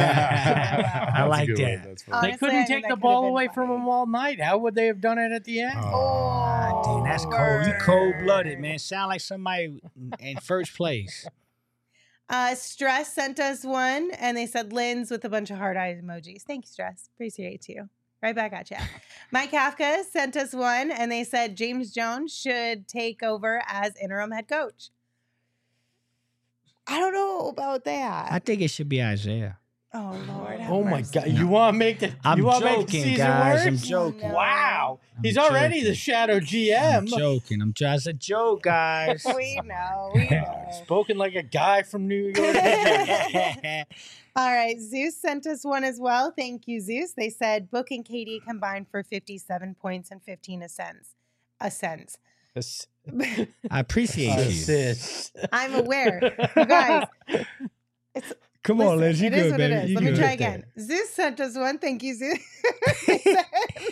D: I like that.
B: They couldn't take the ball away from them all night. How would they have done it at the end?
D: Oh, damn, that's cold. You cold-blooded, man. Sound like somebody in first place.
A: Stress sent us one, and they said Lynn's with a bunch of heart eye emojis. Thank you, Stress. Appreciate you. Right back at you. Mike Kafka sent us one, and they said James Jones should take over as interim head coach. I don't know about that.
D: I think it should be Isaiah.
A: Oh, Lord.
B: Oh, my God. You want to make the
D: I'm
B: you want to
D: joking,
B: make the season
D: guys.
B: worse?
D: I'm joking.
B: Wow. He's
D: I'm
B: already
D: joking.
B: the shadow GM.
D: I'm joking. I'm just a joke, guys.
A: We know. We know.
B: Spoken like a guy from New York.
A: All right. Zeus sent us one as well. Thank you, Zeus. They said Book and KD combined for 57 points and 15 assists.
D: I appreciate you.
A: I'm aware. You guys.
D: Come on, Liz. You
A: it
D: good,
A: is what
D: baby.
A: it is.
D: You
A: Let me
D: good.
A: try again. Zeus sent us one. Thank you, Zeus. They said,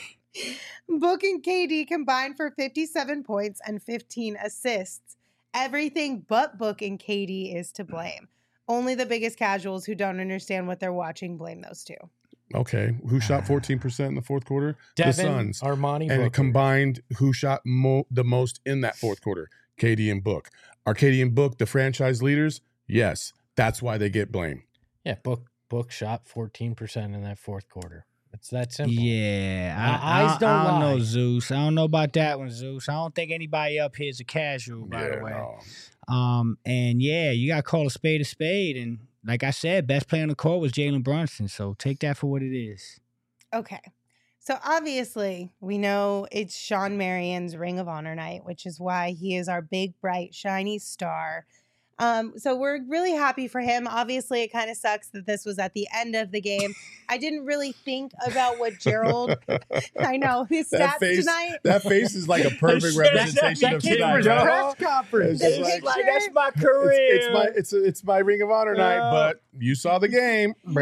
A: Book and KD combined for 57 points and 15 assists. Everything but Book and KD is to blame. Only the biggest casuals who don't understand what they're watching blame those two.
C: Okay. Who shot 14% in the fourth quarter?
B: Devin,
C: the Suns.
B: Armani,
C: and
B: Booker.
C: combined, who shot the most in that fourth quarter? KD and Book. Are KD and Book the franchise leaders? Yes. That's why they get blame.
B: Yeah, Book shot 14% in that fourth quarter. It's that simple.
D: Yeah.
B: Eyes don't
D: I don't
B: lie.
D: know, Zeus. I don't know about that one, Zeus. I don't think anybody up here is a casual, by the way.
C: No.
D: And yeah, you got to call a spade. And like I said, best player on the court was Jalen Brunson. So take that for what it is.
A: Okay. So obviously, we know it's Sean Marion's Ring of Honor night, which is why he is our big, bright, shiny star. So we're really happy for him. Obviously, it kind of sucks that this was at the end of the game. I didn't really think about what Gerald. I know his stats tonight.
C: That face is like a perfect representation of tonight.
B: Press conference.
C: It's
D: Like, that's my career.
C: It's my Ring of Honor night, but you saw the game.
A: If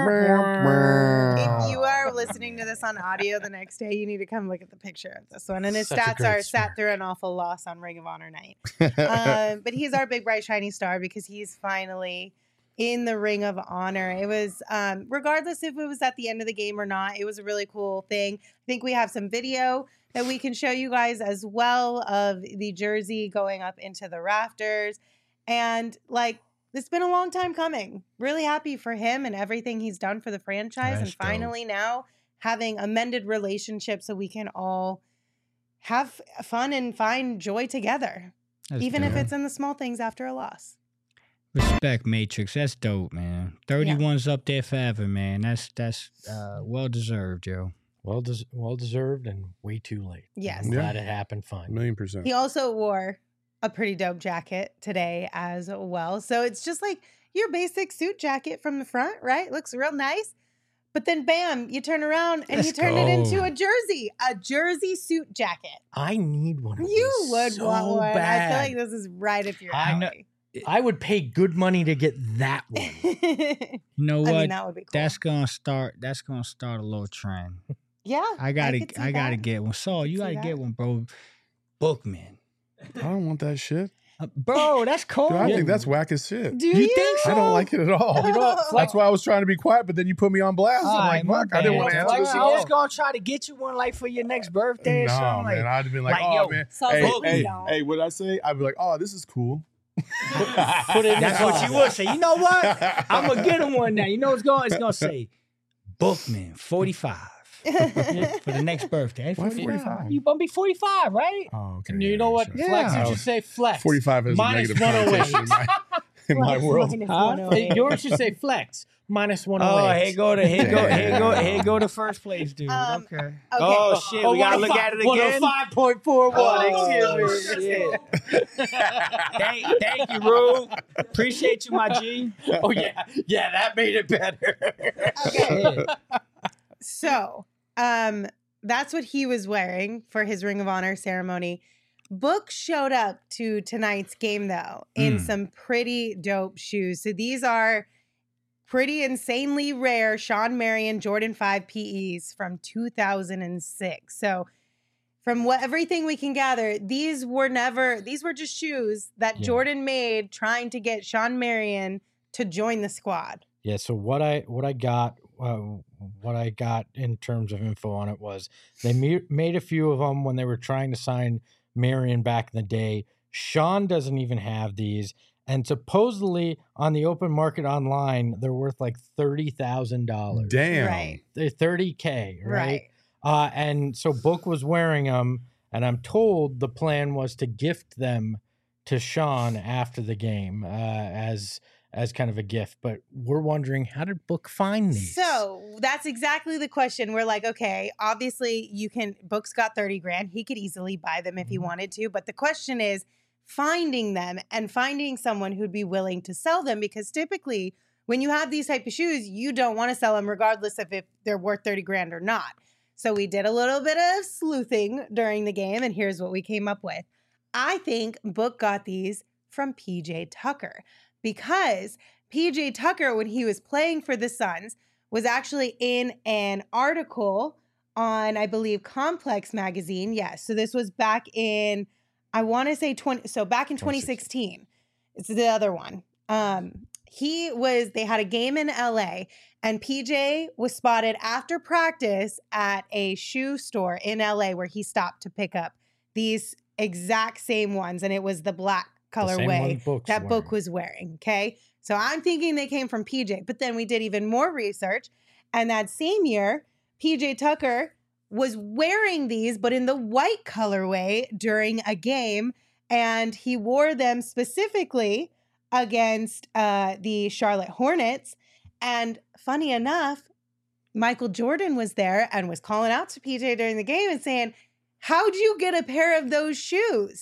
A: you are listening to this on audio the next day, you need to come look at the picture of this one. And his
B: Such a
A: stats
B: great
A: are
B: smirk.
A: sat through an awful loss on Ring of Honor night. But he's our big, bright, shiny star because he's finally in the Ring of Honor. It was, regardless if it was at the end of the game or not, it was a really cool thing. I think we have some video that we can show you guys as well of the jersey going up into the rafters. And like, it's been a long time coming. Really happy for him and everything he's done for the franchise.
B: That's
A: And finally now having a mended relationship so we can all have fun and find joy together. Even if it's in the small things after a loss.
D: Respect, Matrix. That's dope, man. 31's up there forever, man. That's well deserved, yo.
B: Well deserved and way too late.
A: Yes.
B: I'm glad it happened fine.
C: 1,000,000%.
A: He also wore a pretty dope jacket today as well. So it's just like your basic suit jacket from the front, right? Looks real nice. But then bam, you turn around and you turn it into a jersey suit jacket.
B: I need one of
A: You
B: these
A: would
B: so
A: want one.
B: bad.
A: I feel like this is right up your
B: I know.
A: alley.
B: I would pay good money to get that one.
D: You know what?
A: I mean, that would be cool.
D: That's gonna start a little trend.
A: Yeah.
D: I gotta
A: could see that.
D: get one. Saul, you
A: see
D: gotta
A: that.
D: get one, bro. Bookman.
C: I don't want that shit.
D: Bro, that's cold.
C: Dude, I think that's whack as shit.
A: Do you
D: think so?
C: I don't like it at all.
A: You know what?
C: That's why I was trying to be quiet, but then you put me on blast.
D: All
C: I'm
D: right,
C: like, fuck, I didn't want to
D: man.
C: answer this at
D: I was
C: all.
D: gonna try to get you one like for your next birthday or
C: No,
D: something.
C: man,
D: Like,
C: I'd have been like,
D: like,
C: oh,
D: yo,
C: man.
A: So
C: Hey,
A: please
C: hey,
A: don't.
C: hey, what did I say? I'd be like, oh, this is cool.
B: Put it in
D: that's
B: the
D: what you
B: closet.
D: would say. You know what? I'm gonna get him one now. You know what's going? It's gonna say, Bookman 45 for the next birthday. Hey,
C: Why 45?
D: You gonna be 45, right?
C: Oh, okay.
B: And you know what?
C: sure.
B: Flex.
D: Yeah.
B: You should say flex.
C: 45 is a
B: Minus
C: negative
B: 108.
C: connotation in my world.
A: Minus
D: Huh?
A: 108.
B: Yours should say flex. Minus 108.
D: Oh, here go the first place, dude. Okay. Oh shit, we gotta look at it again.
B: 105.41.
D: Oh,
B: Excuse me.
D: shit. Thank you, Rube. Appreciate you, my G.
B: Oh yeah, that made it better.
A: Okay. So, that's what he was wearing for his Ring of Honor ceremony. Book showed up to tonight's game, though, in some pretty dope shoes. So these are pretty insanely rare Sean Marion Jordan 5 PEs from 2006. So from everything we can gather, these were just shoes that
B: Yeah.
A: Jordan made trying to get Sean Marion to join the squad.
B: Yeah. So what I got in terms of info on it was they made a few of them when they were trying to sign Marion back in the day. Sean doesn't even have these, and supposedly on the open market online, they're worth like $30,000.
C: Damn.
A: Right.
B: They're $30K, right?
A: Right.
B: And so Book was wearing them, and I'm told the plan was to gift them to Sean after the game as kind of a gift. But we're wondering, how did Book find these?
A: So that's exactly the question. We're like, okay, obviously Book's got 30 grand. He could easily buy them if he wanted to. But the question is finding them and finding someone who'd be willing to sell them, because typically when you have these type of shoes, you don't want to sell them regardless of if they're worth 30 grand or not. So we did a little bit of sleuthing during the game, and here's what we came up with. I think Book got these from PJ Tucker, because PJ Tucker, when he was playing for the Suns, was actually in an article on, I believe, Complex magazine. Yes. So this was back in, I want to say back in 2016. It's the other one. They had a game in LA, and PJ was spotted after practice at a shoe store in LA where he stopped to pick up these exact same ones. And it was the black colorway that Book was wearing. Okay. So I'm thinking they came from PJ, but then we did even more research. And that same year, PJ Tucker was wearing these, but in the white colorway during a game. And he wore them specifically against the Charlotte Hornets. And funny enough, Michael Jordan was there and was calling out to PJ during the game and saying, how'd you get a pair of those shoes?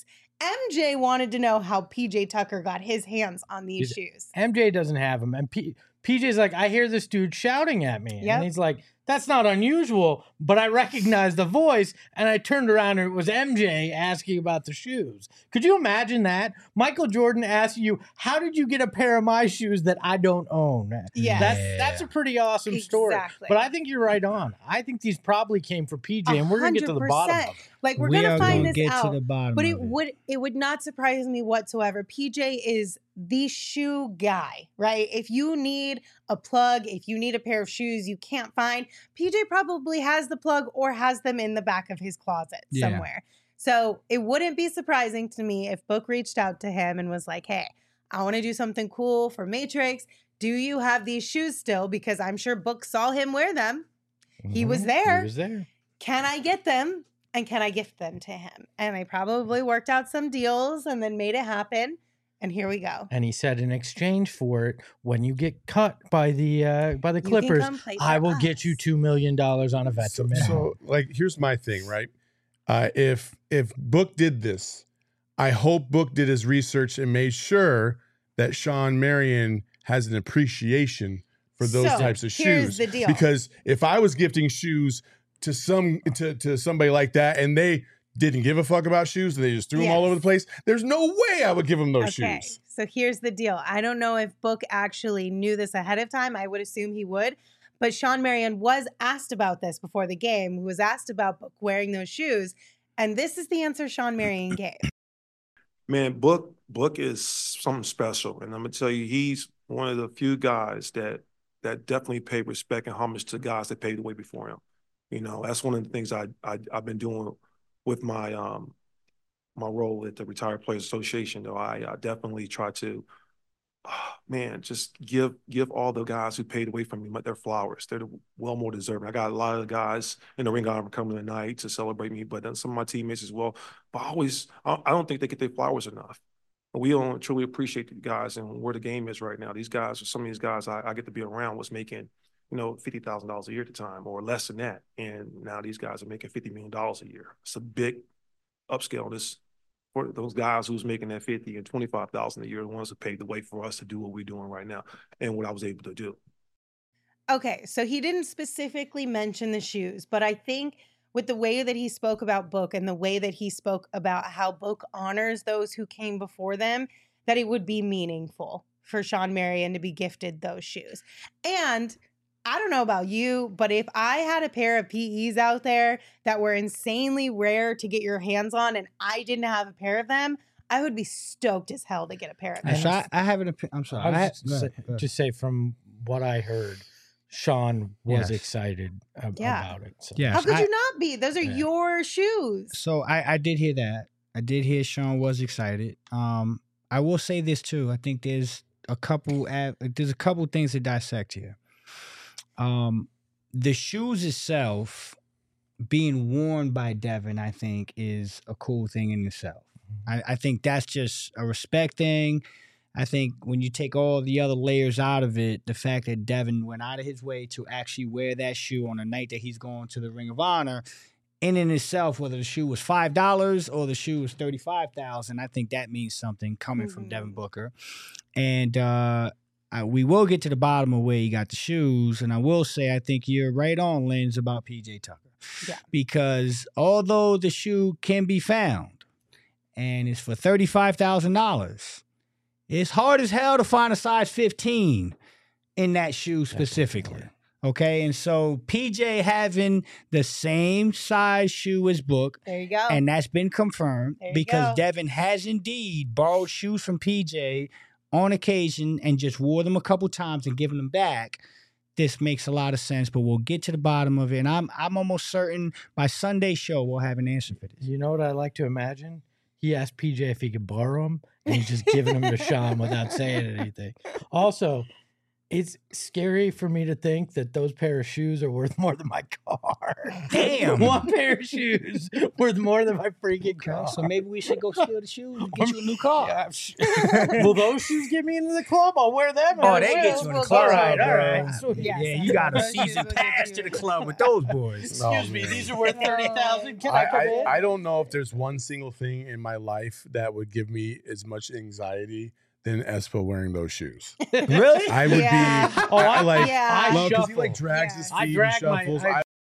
A: MJ wanted to know how PJ Tucker got his hands on these shoes.
B: MJ doesn't have them. And PJ's like, I hear this dude shouting at me.
A: Yep.
B: And he's like, that's not unusual, but I recognize the voice. And I turned around and it was MJ asking about the shoes. Could you imagine that? Michael Jordan asked you, how did you get a pair of my shoes that I don't own?
A: Yeah.
B: That's a pretty awesome story.
A: Exactly.
B: But I think you're right on. I think these probably came from PJ, and we're going to get to the bottom of it.
A: Like, we're
D: We
A: going
D: are
A: to find
D: gonna
A: this
D: get
A: out.
D: to the bottom
A: But
D: of
A: it would not surprise me whatsoever. PJ is the shoe guy, right? If you need a plug, if you need a pair of shoes you can't find, PJ probably has the plug or has them in the back of his closet somewhere. So it wouldn't be surprising to me if Book reached out to him and was like, hey, I want to do something cool for Matrix. Do you have these shoes still? Because I'm sure Book saw him wear them. He was there.
B: He was there.
A: Can I get them? And can I gift them to him? And I probably worked out some deals and then made it happen. And here we go.
B: And he said, in exchange for it, when you get cut by the Clippers,
A: come play
B: I
A: for
B: will
A: us.
B: get you $2 million on a veteran minimum.
C: So, like, here's my thing, right? If Book did this, I hope Book did his research and made sure that Sean Marion has an appreciation for those
A: So,
C: types of
A: here's
C: shoes.
A: the deal.
C: Because if I was gifting shoes to somebody like that and they didn't give a fuck about shoes and they just threw them all
A: Yes.
C: over the place, there's no way I would give them those
A: Okay,
C: shoes.
A: so here's the deal. I don't know if Book actually knew this ahead of time. I would assume he would. But Sean Marion was asked about this before the game. He was asked about Book wearing those shoes. And this is the answer Sean Marion gave.
J: Man, Book is something special. And I'm going to tell you, he's one of the few guys that definitely pay respect and homage to guys that paved the way before him. You know, that's one of the things I've been doing with my my role at the Retired Players Association. Though I definitely try to, just give all the guys who paid away from me their flowers. They're well more deserving. I got a lot of guys in the Ring of Honor coming tonight to celebrate me, but then some of my teammates as well. But I don't think they get their flowers enough. We don't truly appreciate the guys and where the game is right now. These guys, or some of these guys I get to be around, was making, $50,000 a year at the time or less than that. And now these guys are making $50 million a year. It's a big upscale. This for those guys who's making that $50,000 and $25,000 a year, the ones who paved the way for us to do what we're doing right now and what I was able to do.
A: Okay, so he didn't specifically mention the shoes, but I think with the way that he spoke about Book and the way that he spoke about how Book honors those who came before them, that it would be meaningful for Sean Marion to be gifted those shoes. And I don't know about you, but if I had a pair of PEs out there that were insanely rare to get your hands on and I didn't have a pair of them, I would be stoked as hell to get a pair of them.
D: So I have an I'm sorry.
B: I was just say from what I heard, Sean was excited about it. So.
A: How could you not be? Those are your shoes.
D: So I did hear that. I did hear Sean was excited. I will say this too. I think there's a couple things to dissect here. The shoes itself being worn by Devin, I think, is a cool thing in itself. I think that's just a respect thing. I think when you take all the other layers out of it, the fact that Devin went out of his way to actually wear that shoe on a night that he's going to the Ring of Honor, in itself, whether the shoe was $5 or the shoe was $35,000, I think that means something coming from Devin Booker. And we will get to the bottom of where he got the shoes. And I will say, I think you're right on, Lens, about PJ Tucker.
A: Yeah.
D: Because although the shoe can be found and it's for $35,000, it's hard as hell to find a size 15 in that shoe specifically. Okay, and so PJ having the same size shoe as Book.
A: There you go.
D: And that's been confirmed
A: There you
D: because
A: go.
D: Devin has indeed borrowed shoes from PJ on occasion and just wore them a couple times and given them back. This makes a lot of sense, but we'll get to the bottom of it. And I'm almost certain by Sunday's show we'll have an answer for this.
B: You know what I like to imagine? He asked PJ if he could borrow them, and he's just giving them to Sean without saying anything. Also, It's scary for me to think that those pair of shoes are worth more than my car.
D: Damn.
B: One pair of shoes worth more than my freaking car.
D: So maybe we should go steal the shoes and get you a new car.
B: Will those shoes get me into the club? I'll wear them.
D: Oh, they get you in the club.
B: All right.
D: Yeah, you got a season pass to the club with those boys.
B: Excuse me, these are worth 30,000. Can I come in?
C: I don't know if there's one single thing in my life that would give me as much anxiety than Espo wearing those shoes.
D: Really?
C: I would be.
B: I
C: because he like drags his feet
B: I drag
C: and shuffles.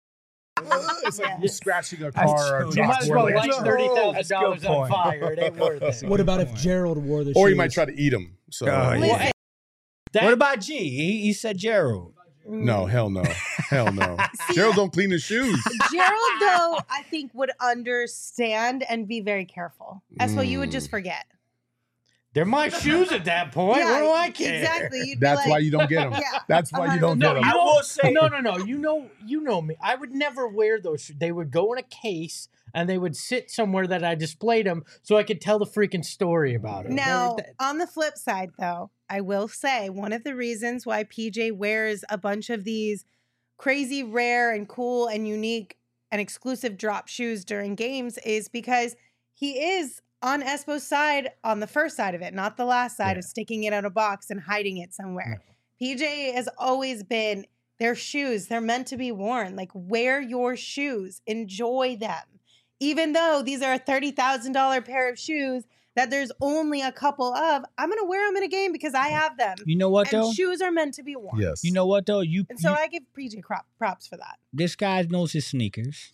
C: It's like you're scratching a car. Or
B: you might as well light
C: That's
B: $30,000 on fire. It ain't worth it.
G: What about if Gerald wore the shoes?
C: Or you might try to eat them. So
D: Yeah. What about G? He said Gerald.
C: no, hell no, hell no. Gerald don't clean his shoes.
A: Gerald, though, I think would understand and be very careful. That's what you would just forget.
B: They're my shoes at that point.
A: Yeah,
B: what do I care?
A: Exactly. You'd be
C: That's
A: like,
C: why you don't get them.
A: Yeah.
C: That's why you don't get them.
B: I
D: will say
B: no. You know me. I would never wear those shoes. They would go in a case and they would sit somewhere that I displayed them so I could tell the freaking story about it.
A: Now, on the flip side, though, I will say one of the reasons why PJ wears a bunch of these crazy, rare, and cool, and unique, and exclusive drop shoes during games is because he is on Espo's side, on the first side of it, not the last side of sticking it in a box and hiding it somewhere. PJ has always been their shoes. They're meant to be worn. Like, wear your shoes. Enjoy them. Even though these are a $30,000 pair of shoes that there's only a couple of, I'm going to wear them in a game because I have them.
D: You know what,
A: and
D: though?
A: Shoes are meant to be worn.
C: Yes.
D: You know what, though?
A: And so I give PJ props for that.
D: This guy knows his sneakers.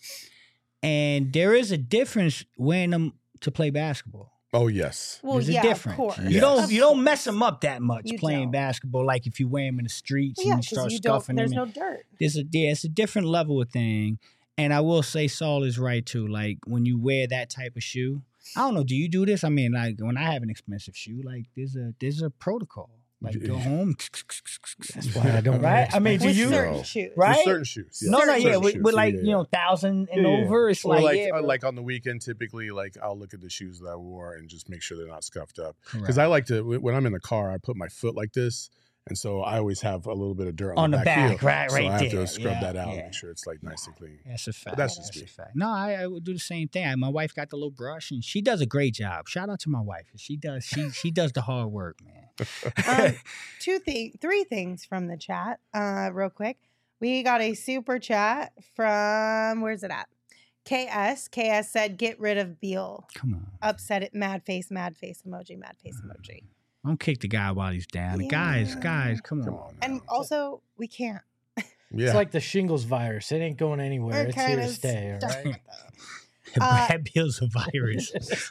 D: And there is a difference wearing them to play basketball.
C: Oh yes.
A: Well,
D: There's
A: yeah,
D: a difference.
A: of course.
D: You don't mess them up that much
A: You
D: playing
A: don't.
D: basketball like if you wear them in the streets
A: Well, yeah,
D: and you start
A: because you don't.
D: scuffing
A: There's
D: them.
A: no dirt.
D: It's a different level of thing. And I will say Saul is right too. Like when you wear that type of shoe, I don't know. Do you do this? I mean, like when I have an expensive shoe, like there's a protocol. Like go home.
B: That's why I don't.
D: Right? I mean, do
A: With
D: you?
A: certain shoes.
D: Right?
C: With certain shoes. Yeah.
D: No,
C: Certain
D: yeah, with
C: shoes.
D: like
C: Yeah,
D: you know 1,000 and
C: Yeah.
D: over. It's
C: Or
D: like yeah,
C: like on the weekend, typically, like I'll look at the shoes that I wore and just make sure they're not scuffed up. Because
D: Correct.
C: I like to, when I'm in the car, I put my foot like this, and so I always have a little bit of dirt
D: On
C: on
D: the
C: the
D: back,
C: heel.
D: right
C: So I have
D: there.
C: to scrub
D: Yeah,
C: that out
D: yeah.
C: and make sure it's like nice and clean.
D: That's a fact.
C: that's just
D: a
C: me.
D: fact. No, I would do the same thing. My wife got the little brush, and she does a great job. Shout out to my wife. She does the hard work, man.
A: Three things from the chat, real quick. We got a super chat from, where's it at? KS. KS said, get rid of Beal.
D: Come on.
A: Upset it. Mad face emoji, mad face emoji.
D: Don't kick the guy while he's down.
A: Yeah.
D: Guys, come on.
A: And also, we can't.
C: Yeah.
B: It's like the shingles virus. It ain't going anywhere.
A: We're
B: It's here to
A: kinda
B: stay. All
A: stuck
B: right.
A: with that.
D: Brad Beal's a virus.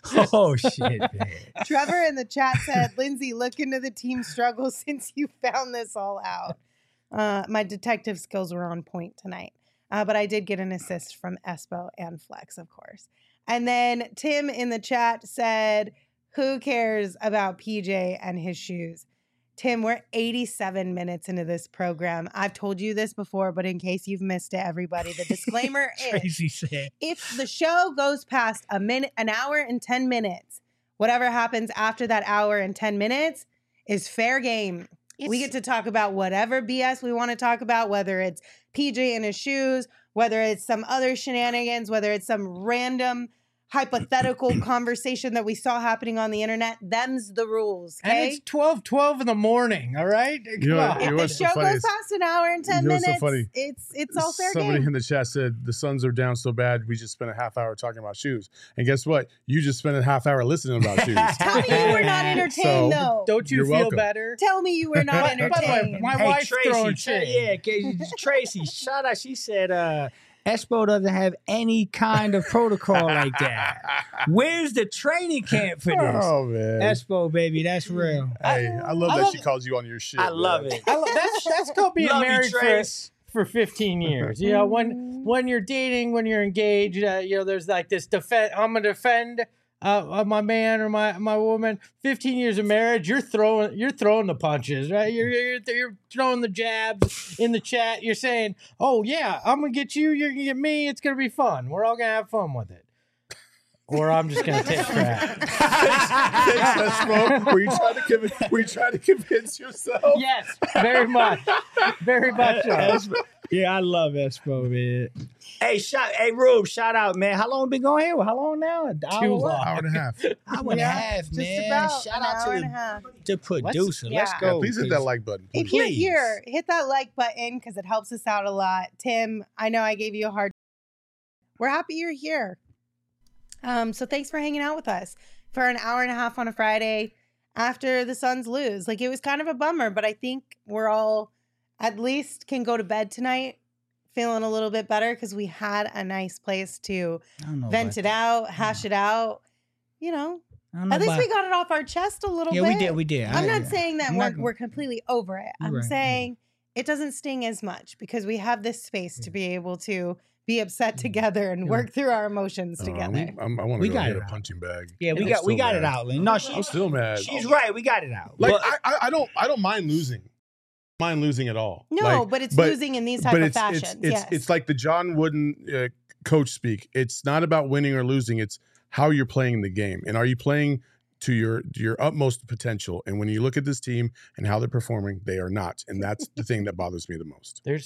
D: Oh shit, man.
A: Trevor in the chat said, Lindsay, look into the team struggle since you found this all out. My detective skills were on point tonight. But I did get an assist from Espo and Flex, of course. And then Tim in the chat said, who cares about PJ and his shoes? Tim, we're 87 minutes into this program. I've told you this before, but in case you've missed it, everybody, the disclaimer is
D: Tracy said.
A: if the show goes past an hour and 10 minutes, whatever happens after that hour and 10 minutes is fair game. We get to talk about whatever BS we want to talk about, whether it's PJ and his shoes, whether it's some other shenanigans, whether it's some random hypothetical conversation that we saw happening on the internet. Them's the rules,
B: And
A: okay?
B: it's 12:12 in the morning. All right. Come
C: know-
B: on.
C: you know
A: If
C: what's
A: the
C: so
A: show
C: funny
A: goes
C: is-
A: past an hour and 10
C: you know what's so
A: minutes,
C: funny?
A: it's all fair
C: Somebody
A: game.
C: in the chat said the Suns are down so bad we just spent a half hour talking about shoes. And guess what? You just spent a half hour listening about shoes.
A: Tell me you were not entertained,
C: So-
A: though.
B: Don't you
C: You're
B: feel
C: welcome.
B: better?
A: Tell me you were not
B: By the way,
A: entertained.
B: my
D: Hey,
B: wife's throwing shade.
D: Tracy, shout out. She said, Espo doesn't have any kind of protocol like that. Where's the training camp for this?
C: Oh man.
D: Espo, baby, that's real.
C: Hey, I love
B: I
C: that
B: love
C: she
B: it.
C: calls you on your shit.
D: I love
C: man.
D: it.
B: That's called being
D: Love you,
B: married
D: Trace.
B: for 15 years. You know, when you're dating, when you're engaged, you know, there's like this defend. I'm gonna defend my man or my woman. 15 years of marriage, you're throwing the punches, right? You're throwing the jabs in the chat. You're saying, oh yeah, I'm gonna get you. You're gonna get me. It's gonna be fun. We're all gonna have fun with it. or I'm just going to take crap.
C: Thanks, Espo. Were you trying to convince yourself?
B: Yes, very much. Very much so.
D: Yeah, I love Espo, man. Hey, Rube, shout out, man. How long been going here? How long now?
B: Too long.
C: Hour and a half.
D: Hour and a half,
A: Just
D: man.
A: about
D: Shout
A: an
D: out
A: hour
D: to
A: and a half.
D: the producer.
A: Yeah.
D: Let's go.
C: Please hit that like button.
A: If
C: Please.
A: you're here, hit that like button because it helps us out a lot. Tim, I know I gave you a hard time. We're happy you're here. So thanks for hanging out with us for an hour and a half on a Friday after the Suns lose. Like, it was kind of a bummer, but I think we're all at least can go to bed tonight feeling a little bit better because we had a nice place to vent it out, hash it out. You know, at least we got it off our chest a little bit.
D: Yeah, we did.
A: I'm not saying that we're completely over it. I'm saying it doesn't sting as much because we have this space to be able to be upset together and work through our emotions together.
C: I want to go hit a punching bag.
D: Yeah, we got it out, Lynn. No,
C: I'm still mad.
D: She's right. We got it out.
C: Like
D: But-
C: I don't mind losing. Mind losing at all.
A: No, but it's losing in these type of fashions.
C: It's like the John Wooden coach speak. It's not about winning or losing. It's how you're playing the game, and are you playing to your utmost potential? And when you look at this team and how they're performing, they are not, and that's the thing that bothers me the most.
B: There's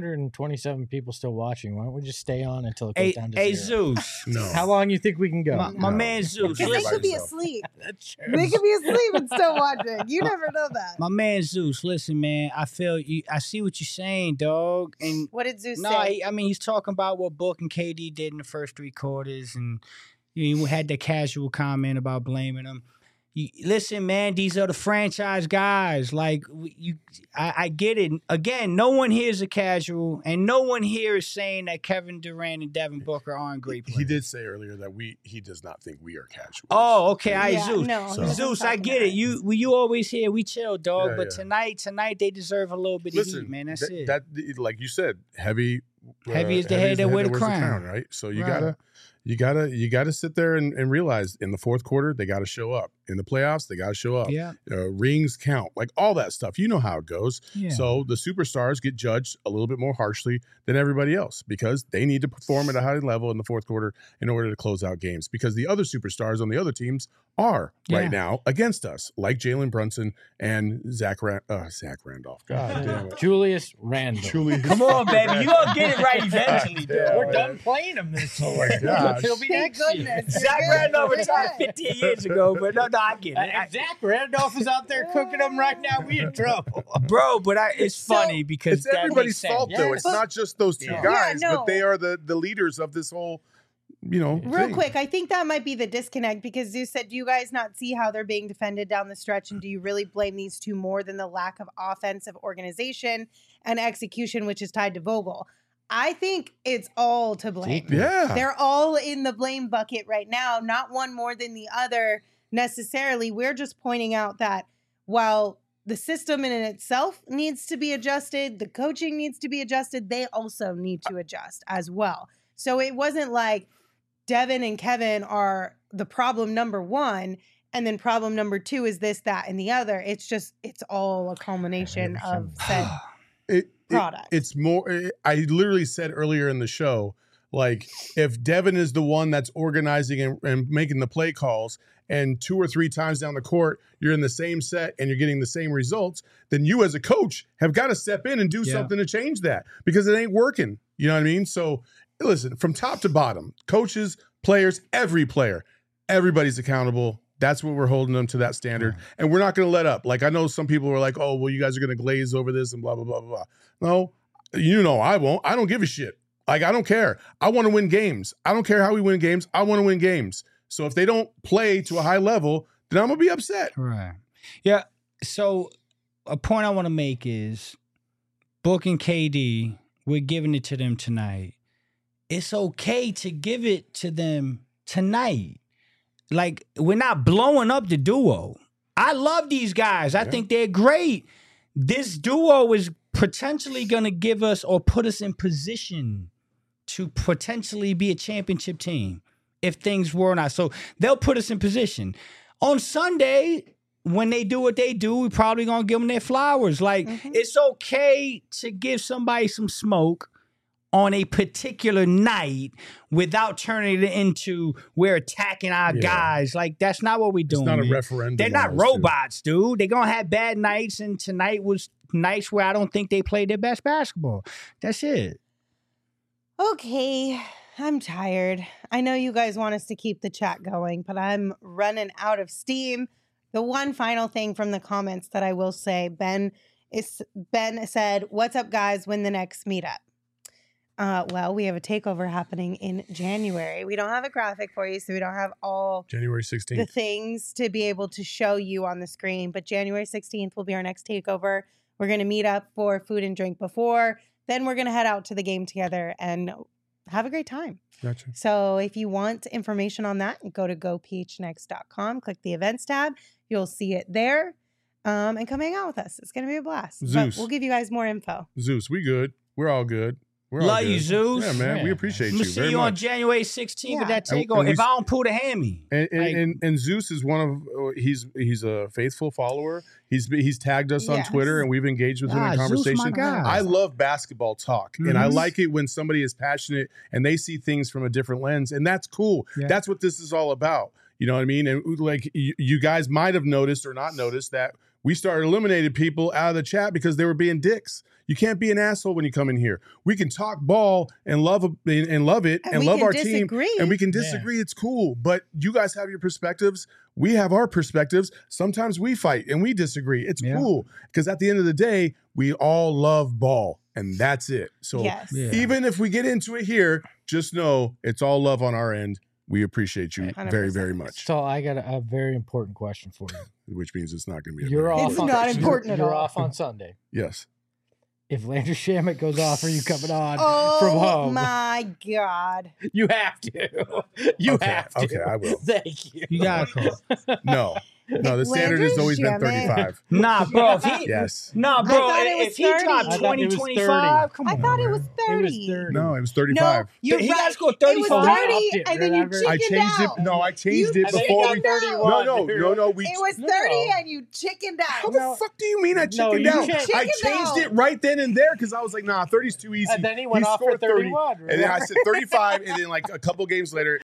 B: 627 people still watching. Why don't we just stay on until it goes down to zero?
D: Zeus.
C: No.
B: How long you think we can go?
D: My man Zeus.
A: They could be asleep. They could be asleep and still watching. You never know that.
D: My man Zeus, listen, man. I feel you. I see what you're saying, dog. And
A: what did Zeus say?
D: He's talking about what Book and KD did in the first 3 quarters, and you had the casual comment about blaming them. Listen, man, these are the franchise guys. Like, I get it. Again, no one here is a casual, and no one here is saying that Kevin Durant and Devin Booker aren't great players.
C: He did say earlier that he does not think we are casual.
D: Oh, okay. Zeus.
A: No,
D: Zeus, I get it. You always here. We chill, dog.
C: Yeah,
D: but tonight they deserve a little bit of heat, man. That's it.
C: That, like you said, heavy
D: is the head that wear the crown,
C: right? So you gotta sit there and realize in the fourth quarter they got to show up. In the playoffs they got to show up.
D: Yeah,
C: rings count, like all that stuff. You know how it goes.
D: Yeah.
C: So the superstars get judged a little bit more harshly than everybody else because they need to perform at a high level in the fourth quarter in order to close out games. Because the other superstars on the other teams are right now against us, like Jalen Brunson and Zach Randolph. God damn it,
B: Julius Randle.
D: Come on, baby, you gonna get it right eventually, dude.
B: We're done playing him this year.
C: Oh my God.
B: It'll be next year.
D: Zach Randolph retired 15 years ago, but no, I get it.
B: If Zach Randolph is out there cooking them right now, we in trouble.
D: Bro, but it's funny because
C: it's everybody's fault, though. It's not just those two guys,
A: no.
C: but they are the leaders of this whole,
A: Real
C: thing.
A: quick, I think that might be the disconnect because Zeus said, do you guys not see how they're being defended down the stretch? And do you really blame these two more than the lack of offensive organization and execution, which is tied to Vogel? I think it's all to blame.
C: Yeah.
A: They're all in the blame bucket right now, not one more than the other necessarily. We're just pointing out that while the system in itself needs to be adjusted, the coaching needs to be adjusted, they also need to adjust as well. So it wasn't like Devin and Kevin are the problem number one, and then problem number two is this, that, and the other. It's just, it's all a culmination of said product.
C: It's more, I literally said earlier in the show, like, if Devin is the one that's organizing and making the play calls, and 2 or 3 times down the court, you're in the same set and you're getting the same results, then you as a coach have got to step in and do something to change that because it ain't working. You know what I mean? So listen, from top to bottom, coaches, players, every player, everybody's accountable. That's what we're holding them to, that standard. And we're not going to let up. Like, I know some people were like, oh, well, you guys are going to glaze over this and blah, blah, blah, blah, blah. No, I won't. I don't give a shit. Like, I don't care. I want to win games. I don't care how we win games. I want to win games. So if they don't play to a high level, then I'm going to be upset.
D: Right. Yeah. So a point I want to make is Book and KD, we're giving it to them tonight. It's okay to give it to them tonight. Like, we're not blowing up the duo. I love these guys. I think they're great. This duo is potentially going to give us or put us in position to potentially be a championship team if things were not. So they'll put us in position. On Sunday, when they do what they do, we probably going to give them their flowers. Like, it's okay to give somebody some smoke on a particular night without turning it into we're attacking our guys. Like, that's not what we're doing.
C: It's not a
D: man.
C: referendum.
D: They're not
C: on those two.
D: robots, dude. They're going to have bad nights, and tonight was nights where I don't think they played their best basketball. That's it.
A: Okay, I'm tired. I know you guys want us to keep the chat going, but I'm running out of steam. The one final thing from the comments that I will say, Ben said, "What's up, guys? When the next meetup?" Well, we have a takeover happening in January. We don't have a graphic for you, so we don't have all
C: January 16th.
A: the things to be able to show you on the screen. But January 16th will be our next takeover. We're going to meet up for food and drink before. Then we're going to head out to the game together and have a great time.
C: Gotcha.
A: So if you want information on that, go to gophnx.com, click the events tab. You'll see it there. And come hang out with us. It's going to be a blast.
C: Zeus.
A: But we'll give you guys more info.
C: Zeus, we good. We're all good. We're all
D: Love
C: good.
D: you, Zeus.
C: Yeah, man.
B: Yeah.
C: We appreciate
D: I'm
C: you
D: going to see
C: very
D: you on
C: much.
D: January 16th with that
C: And
D: takeover.
C: we-
D: If I don't pull the hammy.
C: And Zeus is one of he's a faithful follower. He's tagged us on
A: Yes.
C: Twitter and we've engaged with him in
D: Zeus,
C: conversation.
D: my guy.
C: I love basketball talk, and I
D: Mhm.
C: like it when somebody is passionate and they see things from a different lens, and that's cool.
D: Yeah.
C: That's what this is all about. You know what I mean? And like you guys might have noticed or not noticed that we started eliminating people out of the chat because they were being dicks. You can't be an asshole when you come in here. We can talk ball and love it
A: And
C: and
A: we
C: love
A: can
C: our
A: disagree.
C: team, and we can disagree. It's cool, but you guys have your perspectives. We have our perspectives. Sometimes we fight and we disagree. It's
D: Yeah.
C: cool because at the end of the day, we all love ball, and that's it. So
A: Yes.
D: Yeah.
C: even if we get into it here, just know it's all love on our end. We appreciate you
A: 100%.
C: very, very much.
B: So I got a very important question for you.
C: Which means it's not going to be.
B: You're off.
A: It's
B: on,
A: not important at
B: you're
A: all.
B: off on Sunday.
C: Yes.
B: If Landry Shamet goes off, are you coming on
A: Oh
B: from home?
A: my God.
B: You have to. You
C: Okay,
B: have to.
C: okay, I will.
B: Thank you.
D: You got to call.
C: No. No, the standard
A: Landry
C: has always been
A: Shamet.
C: 35.
D: Nah, bro. If he,
C: Yes.
D: Nah, bro.
A: thought it was
D: If he
A: 30.
D: dropped
A: I
B: thought
D: 20,
B: it was
D: 25, come
A: I
D: on.
A: thought it was
D: man.
A: 30.
B: It was 30.
C: No, it was
A: No,
C: 35.
A: you're
D: He
A: right.
D: got to score
A: It
D: 35.
A: was 30,
B: Upped it,
A: and then you
B: remember?
C: I
A: chickened
C: changed
A: out.
C: it. No, I changed
A: You
C: it
B: And then he
C: before
B: got
C: we.
B: 31.
C: No. We.
A: It was
B: No.
A: 30, and you chickened
C: How
A: out.
C: the fuck do you mean I
B: No,
C: chickened
B: you
C: out?
B: can't-
C: I
A: Chickened
C: changed
A: out.
C: it right then and there because I was like, nah, 30's too easy.
B: And then he went off for
C: scored 30,
B: 31.
C: and then I
B: remember?
C: said 35, and then like a couple games later,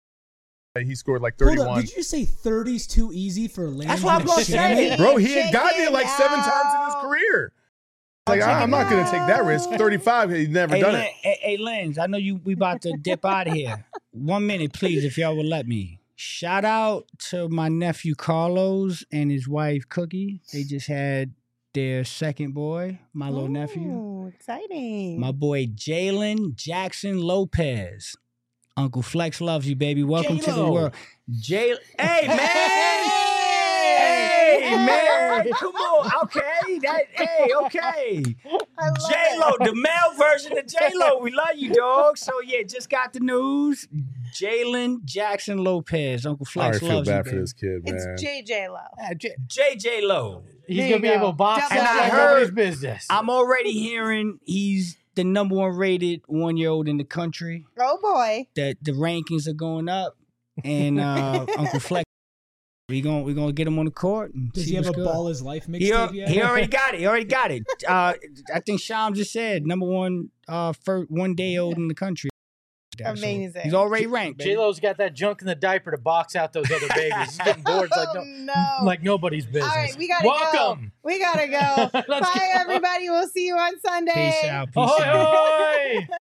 C: he scored like
G: Hold
C: 31.
G: up, did you say 30's too easy for Landry
D: That's what I'm gonna say.
G: Shamet?
C: Bro, he had gotten it
A: Chickened
C: like 7 times in his
A: out.
C: career. Like, I'm not going to take that risk. 35, he's never
D: Hey,
C: done
D: Len,
C: it.
D: hey, Lens, I know we about to dip out of here. 1 minute, please, if y'all would let me. Shout out to my nephew Carlos and his wife Cookie. They just had their second boy, my little nephew.
A: Oh, exciting.
D: My boy Jalen Jackson Lopez. Uncle Flex loves you, baby. Welcome to the
B: J-Lo.
D: world. Hey, man! Hey, man! Come on, okay. Okay.
A: I love
D: J-Lo,
A: it.
D: the male version of J-Lo. We love you, dog. So, yeah, just got the news. Jalen Jackson Lopez. Uncle
C: I
D: Flex
C: feel
D: loves you,
C: bad for
D: baby.
C: this kid, man.
A: It's JJ Lowe.
D: JJ Lo.
B: He's
A: There
B: going to
A: you
B: be
A: go.
B: able to box
A: Double
B: out
D: And I
B: like
D: heard-
B: nobody's business.
D: I'm already hearing he's the number 1 rated 1-year-old in the country.
A: Oh boy.
D: That the rankings are going up. And Uncle Flex, we gonna get him on the court. And
G: Does
D: see
G: he have a
D: what's good.
G: Ball is Life
D: He,
G: mixtape yet?
D: he already got it. I think Sham just said number 1 first 1-day-old in the country. So
A: Amazing.
D: he's already ranked. baby.
B: J-Lo's got that junk in the diaper to box out those other babies. He's getting boards like,
A: Oh, no.
B: like nobody's business.
A: All right, we gotta
B: Welcome.
A: go. We gotta go.
B: Let's
A: Bye,
B: go.
A: everybody. We'll see you on Sunday.
D: Peace out. Peace
B: Ahoy,
D: out.
B: ahoy.